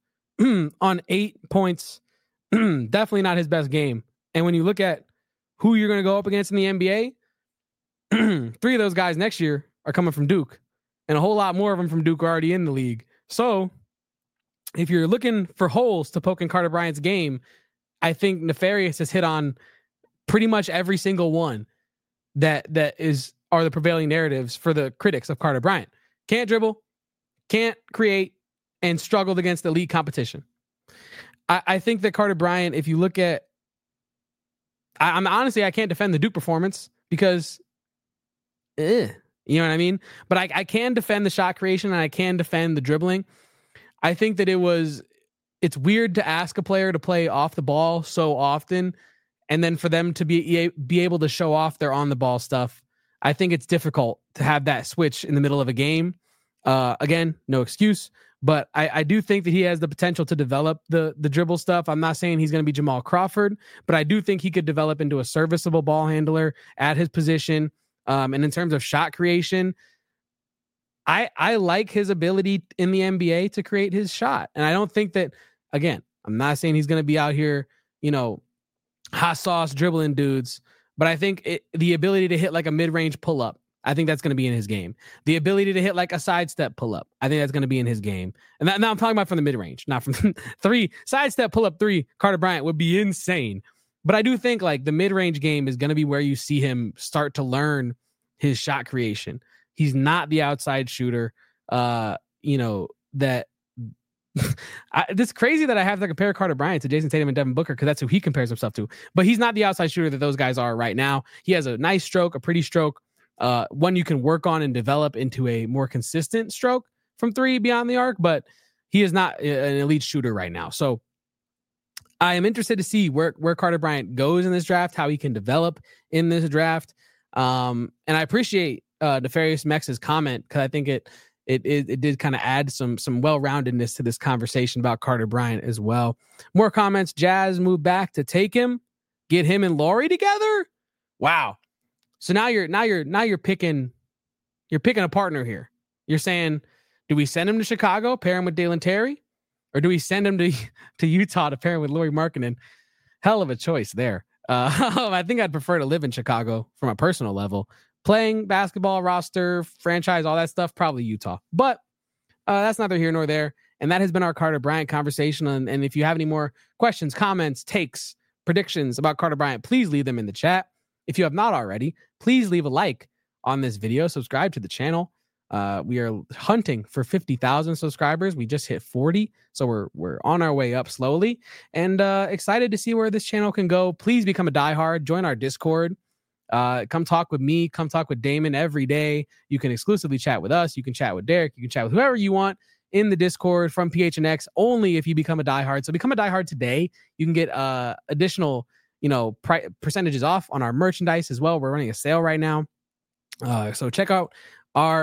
on eight points. Definitely not his best game. And when you look at who you're going to go up against in the N B A, three of those guys next year are coming from Duke, and a whole lot more of them from Duke are already in the league. So if you're looking for holes to poke in Carter Bryant's game, I think Nefarious has hit on pretty much every single one that that is are the prevailing narratives for the critics of Carter Bryant. Can't dribble, can't create, and struggled against elite competition. I, I think that Carter Bryant, if you look at, I, I'm honestly, I can't defend the Duke performance because, eh, you know what I mean? But I, I can defend the shot creation and I can defend the dribbling. I think that it was, it's weird to ask a player to play off the ball so often, and then for them to be be able to show off their on the ball stuff. I think it's difficult to have that switch in the middle of a game. Uh, again, no excuse, but I, I do think that he has the potential to develop the the dribble stuff. I'm not saying he's going to be Jamal Crawford, but I do think he could develop into a serviceable ball handler at his position. Um, and in terms of shot creation, I I like his ability in the N B A to create his shot. And I don't think that, again, I'm not saying he's going to be out here, you know, hot sauce dribbling dudes, but I think it, the ability to hit like a mid-range pull-up, I think that's going to be in his game. The ability to hit like a sidestep pull-up, I think that's going to be in his game. And that, now I'm talking about from the mid-range, not from three. Sidestep pull-up three, Carter Bryant would be insane. But I do think like the mid-range game is going to be where you see him start to learn his shot creation. He's not the outside shooter, uh, you know, that I, it's crazy that I have to compare Carter Bryant to Jason Tatum and Devin Booker because that's who he compares himself to. But he's not the outside shooter that those guys are right now. He has a nice stroke, a pretty stroke, uh, one you can work on and develop into a more consistent stroke from three beyond the arc, but he is not an elite shooter right now. So I am interested to see where, where Carter Bryant goes in this draft, how he can develop in this draft. Um, and I appreciate uh, Nefarious Mex's comment because I think it it it, it did kind of add some some well-roundedness to this conversation about Carter Bryant as well. More comments. Jazz moved back to take him, get him and Laurie together. Wow. So now you're now you're now you're picking you're picking a partner here. You're saying, do we send him to Chicago, pair him with Dalen Terry, or do we send him to to Utah to pair him with Lauri Markkanen? Hell of a choice there. Uh, I think I'd prefer to live in Chicago from a personal level. Playing basketball, roster, franchise, all that stuff, probably Utah. But uh, that's neither here nor there. And that has been our Carter Bryant conversation. And, and if you have any more questions, comments, takes, predictions about Carter Bryant, please leave them in the chat. If you have not already, please leave a like on this video. Subscribe to the channel. Uh, we are hunting for fifty thousand subscribers. We just hit forty. So we're we're on our way up slowly. And uh, excited to see where this channel can go. Please become a diehard. Join our Discord. Uh, come talk with me. Come talk with Damon every day. You can exclusively chat with us. You can chat with Derek. You can chat with whoever you want in the Discord from P H N X only if you become a diehard. So become a diehard today. You can get uh, additional, you know, pri- percentages off on our merchandise as well. We're running a sale right now. Uh, so check out our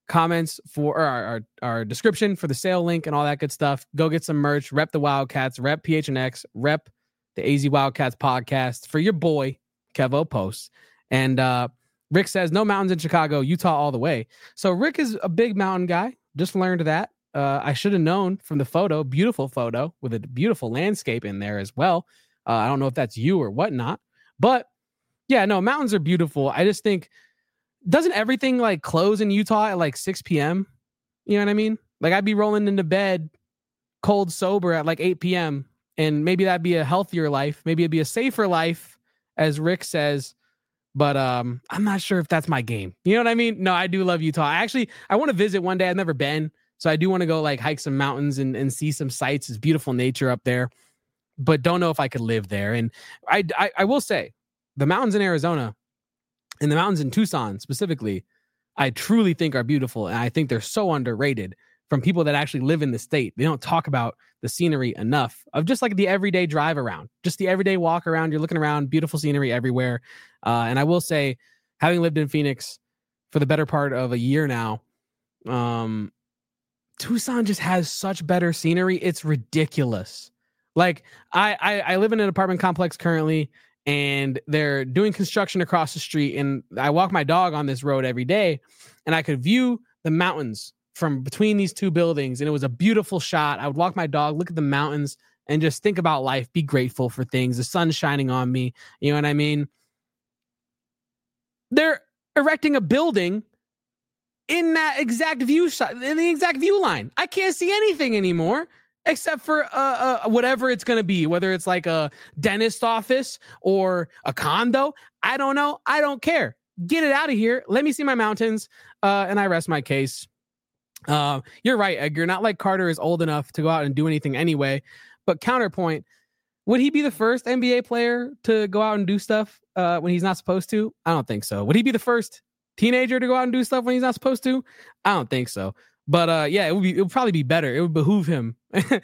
comments for or our, our our description for the sale link and all that good stuff. Go get some merch. Rep the Wildcats. Rep P H N X. Rep the A Z Wildcats podcast for your boy Kevo Post. And uh, Rick says no mountains in Chicago, Utah all the way. So Rick is a big mountain guy. Just learned that. Uh, I should have known from the photo. Beautiful photo with a beautiful landscape in there as well. Uh, I don't know if that's you or whatnot, but yeah, no, mountains are beautiful. I just think, doesn't everything like close in Utah at like six p.m.? You know what I mean? Like I'd be rolling into bed cold sober at like eight p.m. and maybe that'd be a healthier life. Maybe it'd be a safer life, as Rick says. But um, I'm not sure if that's my game. You know what I mean? No, I do love Utah. I actually, I want to visit one day. I've never been. So I do want to go like hike some mountains and, and see some sights. It's beautiful nature up there, but don't know if I could live there. And I, I, I will say the mountains in Arizona and the mountains in Tucson specifically, I truly think are beautiful. And I think they're so underrated from people that actually live in the state. They don't talk about the scenery enough of just like the everyday drive around, just the everyday walk around. You're looking around, beautiful scenery everywhere. Uh, and I will say, having lived in Phoenix for the better part of a year now, um, Tucson just has such better scenery. It's ridiculous. Like I, I, I live in an apartment complex currently, and they're doing construction across the street. And I walk my dog on this road every day, and I could view the mountains from between these two buildings. And it was a beautiful shot. I would walk my dog, look at the mountains, and just think about life, be grateful for things. The sun's shining on me. You know what I mean? They're erecting a building in that exact view shot, in the exact view line. I can't see anything anymore except for uh, uh whatever it's going to be, whether it's like a dentist office or a condo. I don't know. I don't care. Get it out of here. Let me see my mountains. Uh, and I rest my case. Uh, you're right, Edgar. Not like Carter is old enough to go out and do anything anyway. But counterpoint, would he be the first N B A player to go out and do stuff uh, when he's not supposed to? I don't think so. Would he be the first teenager to go out and do stuff when he's not supposed to? I don't think so. But uh, yeah, it would be, it would probably be better. It would behoove him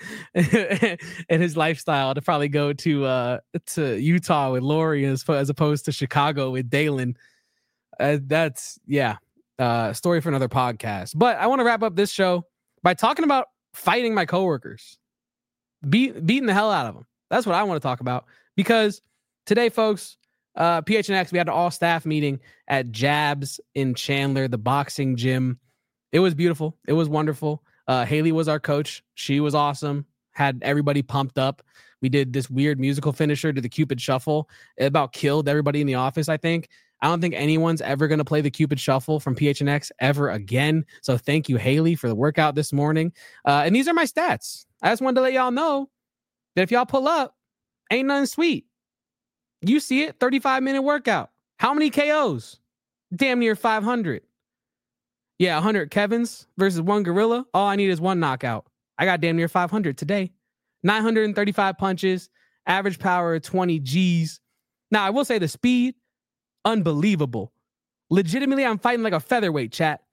and his lifestyle to probably go to uh, to Utah with Lori as, as opposed to Chicago with Dalen. Uh, that's yeah, uh, story for another podcast. But I want to wrap up this show by talking about fighting my coworkers, beat beating the hell out of them. That's what I want to talk about, because today, folks, uh, P H N X, we had an all staff meeting at Jabs in Chandler, the boxing gym. It was beautiful. It was wonderful. Uh, Haley was our coach. She was awesome. Had everybody pumped up. We did this weird musical finisher to the Cupid Shuffle. It about killed everybody in the office, I think. I don't think anyone's ever going to play the Cupid Shuffle from P H N X ever again. So thank you, Haley, for the workout this morning. Uh, and these are my stats. I just wanted to let y'all know that if y'all pull up, ain't nothing sweet. You see it, thirty-five minute workout. How many K Os? Damn near five hundred. Yeah, one hundred Kevins versus one Gorilla. All I need is one knockout. I got damn near five hundred today. nine hundred thirty-five punches, average power of twenty G's. Now, I will say the speed, unbelievable. Legitimately, I'm fighting like a featherweight, chat.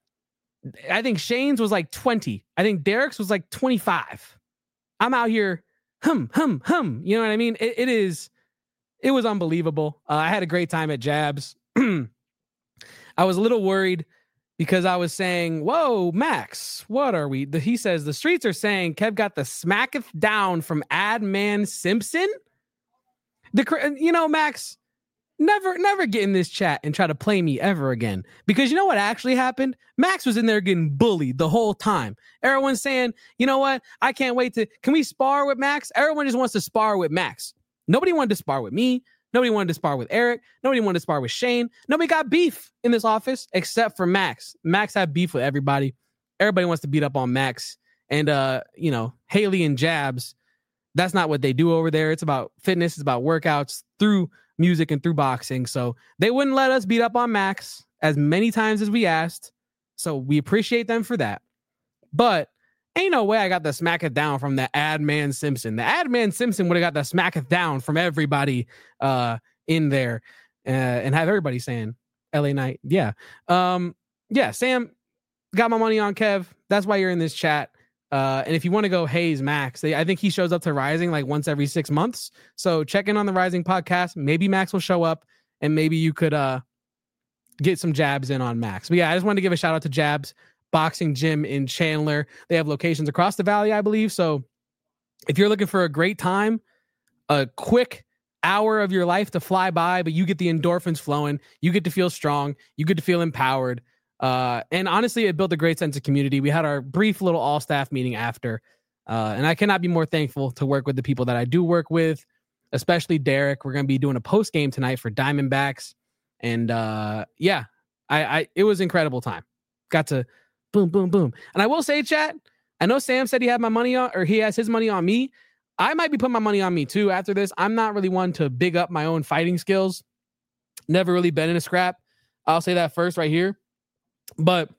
I think Shane's was like twenty. I think Derek's was like twenty-five. I'm out here, hum, hum, hum. You know what I mean? It, it is, it was unbelievable. Uh, I had a great time at Jabs. I was a little worried because I was saying, whoa, Max, what are we? The, he says, the streets are saying Kev got the smacketh down from Adman Simpson. The, you know, Max, never, never get in this chat and try to play me ever again. Because you know what actually happened? Max was in there getting bullied the whole time. Everyone's saying, you know what? I can't wait to, can we spar with Max? Everyone just wants to spar with Max. Nobody wanted to spar with me. Nobody wanted to spar with Eric. Nobody wanted to spar with Shane. Nobody got beef in this office except for Max. Max had beef with everybody. Everybody wants to beat up on Max. And, uh, you know, Haley and Jabs, that's not what they do over there. It's about fitness. It's about workouts through music and through boxing. So they wouldn't let us beat up on Max as many times as we asked. So we appreciate them for that. But ain't no way I got the smacketh down from the Adman Simpson. The Adman Simpson would have got the smacketh down from everybody uh, in there uh, and have everybody saying L A Knight. Yeah. Um, yeah, Sam, got my money on Kev. That's why you're in this chat. Uh, and if you want to go Hayes Max, they, I think he shows up to Rising like once every six months. So check in on the Rising podcast. Maybe Max will show up and maybe you could uh, get some jabs in on Max. But yeah, I just wanted to give a shout out to Jabs. boxing gym in Chandler. They have locations across the valley, I believe. So if you're looking for a great time, a quick hour of your life to fly by, but you get the endorphins flowing, you get to feel strong, you get to feel empowered. Uh, and honestly, it built a great sense of community. We had our brief little all staff meeting after, uh, and I cannot be more thankful to work with the people that I do work with, especially Derek. We're going to be doing a post game tonight for Diamondbacks. And uh, yeah, I, I, it was an incredible time. Got to boom, boom, boom. And I will say, chat, I know Sam said he had my money on, or he has his money on me. I might be putting my money on me too after this. I'm not really one to big up my own fighting skills. Never really been in a scrap. I'll say that first right here. But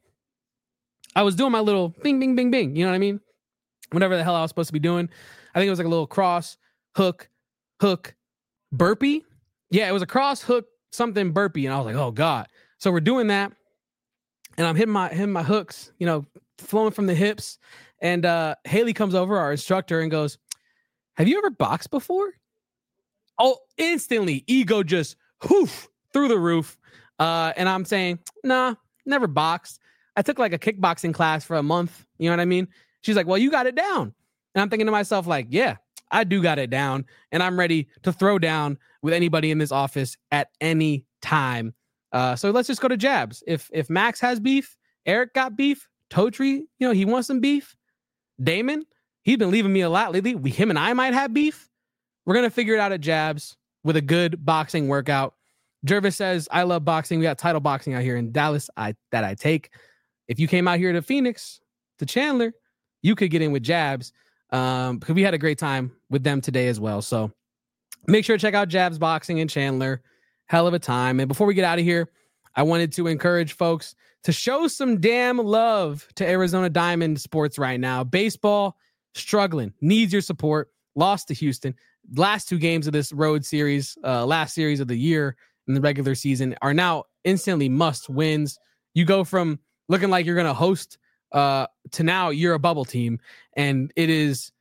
I was doing my little bing, bing, bing, bing. You know what I mean? Whatever the hell I was supposed to be doing. I think it was like a little cross, hook, hook, burpee. Yeah, it was a cross, hook, something burpee. And I was like, oh God. So we're doing that. And I'm hitting my hitting my hooks, you know, flowing from the hips. And uh, Haley comes over, our instructor, and goes, have you ever boxed before? Oh, instantly, ego just whoof through the roof. Uh, and I'm saying, nah, never boxed. I took like a kickboxing class for a month. You know what I mean? She's like, well, you got it down. And I'm thinking to myself, like, yeah, I do got it down. And I'm ready to throw down with anybody in this office at any time. Uh, so let's just go to jabs. If if Max has beef, Eric got beef, Totri, you know, he wants some beef. Damon, he's been leaving me a lot lately. We, him and I might have beef. We're going to figure it out at jabs with a good boxing workout. Jervis says, I love boxing. We got title boxing out here in Dallas I that I take. If you came out here to Phoenix, to Chandler, you could get in with jabs. Um, because we had a great time with them today as well. So make sure to check out Jabs Boxing in Chandler. Hell of a time. And before we get out of here, I wanted to encourage folks to show some damn love to Arizona Diamond sports right now. Baseball struggling, needs your support. Lost to Houston. Last two games of this road series, uh, last series of the year in the regular season, are now instantly must wins. You go from looking like you're going to host uh, to now you're a bubble team. And it is,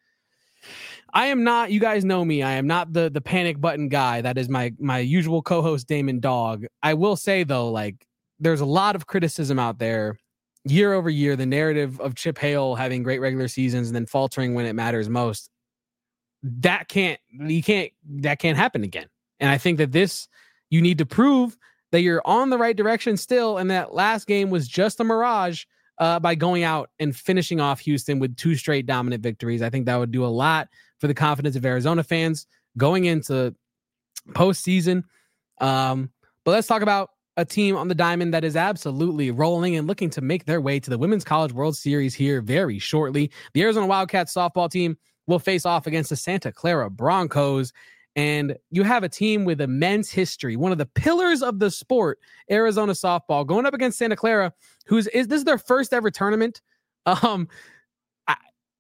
I am not, you guys know me, I am not the the panic button guy. That is my my usual co-host, Damon Dog. I will say, though, like, there's a lot of criticism out there year over year, the narrative of Chip Hale having great regular seasons and then faltering when it matters most. That can't, you can't, that can't happen again. And I think that this, you need to prove that you're on the right direction still. And that last game was just a mirage uh, by going out and finishing off Houston with two straight dominant victories. I think that would do a lot for the confidence of Arizona fans going into postseason. Um, but let's talk about a team on the diamond that is absolutely rolling and looking to make their way to the Women's College World Series here very shortly. The Arizona Wildcats softball team will face off against the Santa Clara Broncos. And you have a team with immense history, one of the pillars of the sport, Arizona softball, going up against Santa Clara, who's is this is their first ever tournament. Um, I,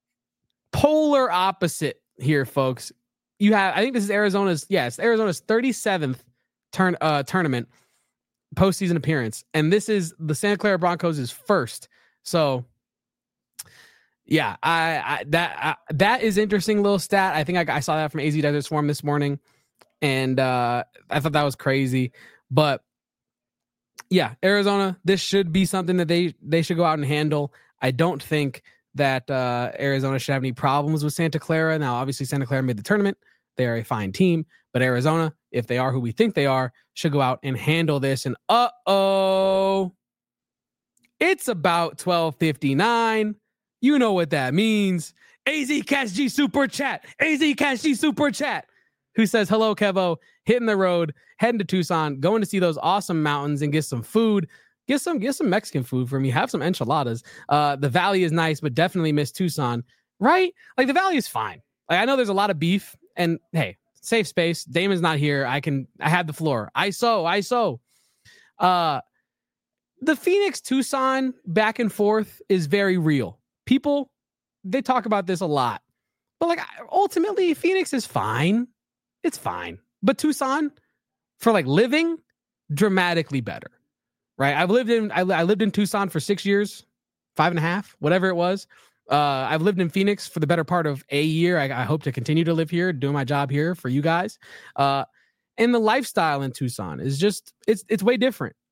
polar opposite here, folks. You have, I think this is Arizona's, yes, Arizona's thirty-seventh turn uh, tournament postseason appearance, and this is the Santa Clara Broncos' first. So, yeah, I, I that I, that is interesting little stat. I think I, I saw that from A Z Desert Swarm this morning, and uh, I thought that was crazy. But yeah, Arizona, this should be something that they they should go out and handle. I don't think that uh, Arizona should have any problems with Santa Clara. Now, obviously, Santa Clara made the tournament. They are a fine team, but Arizona, if they are who we think they are, should go out and handle this. And uh-oh, it's about twelve fifty-nine. You know what that means. A Z Cash G Super Chat. A Z Cash G Super Chat. Who says, hello, Kevo. Hitting the road, heading to Tucson, going to see those awesome mountains and get some food. Get some, get some Mexican food for me. Have some enchiladas. Uh, the Valley is nice, but definitely miss Tucson. Right? Like, the Valley is fine. Like, I know there's a lot of beef. And hey, safe space. Damon's not here. I can, I have the floor. I so, I so. Uh, the Phoenix Tucson back and forth is very real. People, they talk about this a lot, but like ultimately Phoenix is fine. It's fine. But Tucson, for like living, dramatically better, right? I've lived in, I, I lived in Tucson for six years, five and a half, whatever it was. Uh, I've lived in Phoenix for the better part of a year. I, I hope to continue to live here, doing my job here for you guys. Uh, and the lifestyle in Tucson is just, it's, it's way different.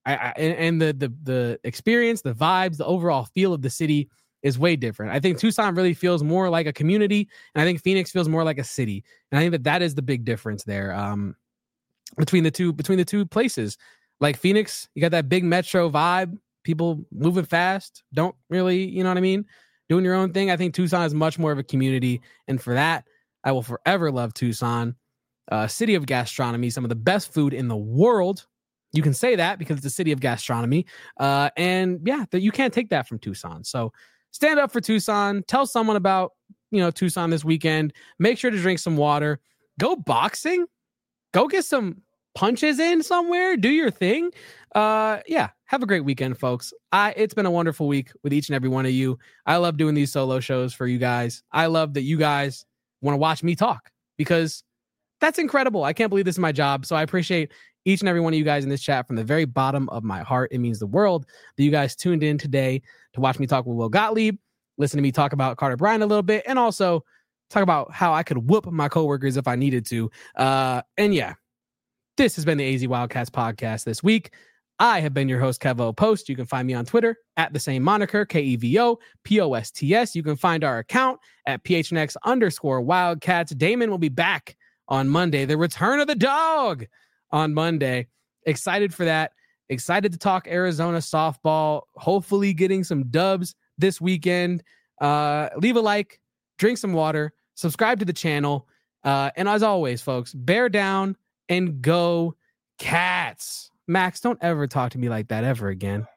I, I and, and the the the experience, the vibes, the overall feel of the city is way different. I think Tucson really feels more like a community, and I think Phoenix feels more like a city. And I think that that is the big difference there um, between the two between the two places. Like Phoenix, you got that big metro vibe, people moving fast, don't really, you know what I mean, doing your own thing. I think Tucson is much more of a community, and for that, I will forever love Tucson. Uh, city of gastronomy, some of the best food in the world. You can say that because it's a city of gastronomy. Uh, and yeah, that you can't take that from Tucson. So stand up for Tucson. Tell someone about, you know, Tucson this weekend. Make sure to drink some water. Go boxing. Go get some punches in somewhere. Do your thing. Uh, yeah, have a great weekend, folks. I It's been a wonderful week with each and every one of you. I love doing these solo shows for you guys. I love that you guys want to watch me talk because that's incredible. I can't believe this is my job. So I appreciate each and every one of you guys in this chat from the very bottom of my heart. It means the world that you guys tuned in today to watch me talk with Will Gottlieb, listen to me talk about Carter Bryant a little bit, and also talk about how I could whoop my coworkers if I needed to. Uh, and yeah, this has been the A Z Wildcats podcast this week. I have been your host, Kevo Post. You can find me on Twitter at the same moniker, K E V O P O S T S. You can find our account at P H N X underscore Wildcats. Damon will be back on Monday. The return of the dog on Monday. Excited for that. Excited to talk Arizona softball. Hopefully getting some dubs this weekend. Uh, leave a like, drink some water, subscribe to the channel. Uh, and as always, folks, bear down and go Cats. Max, don't ever talk to me like that ever again.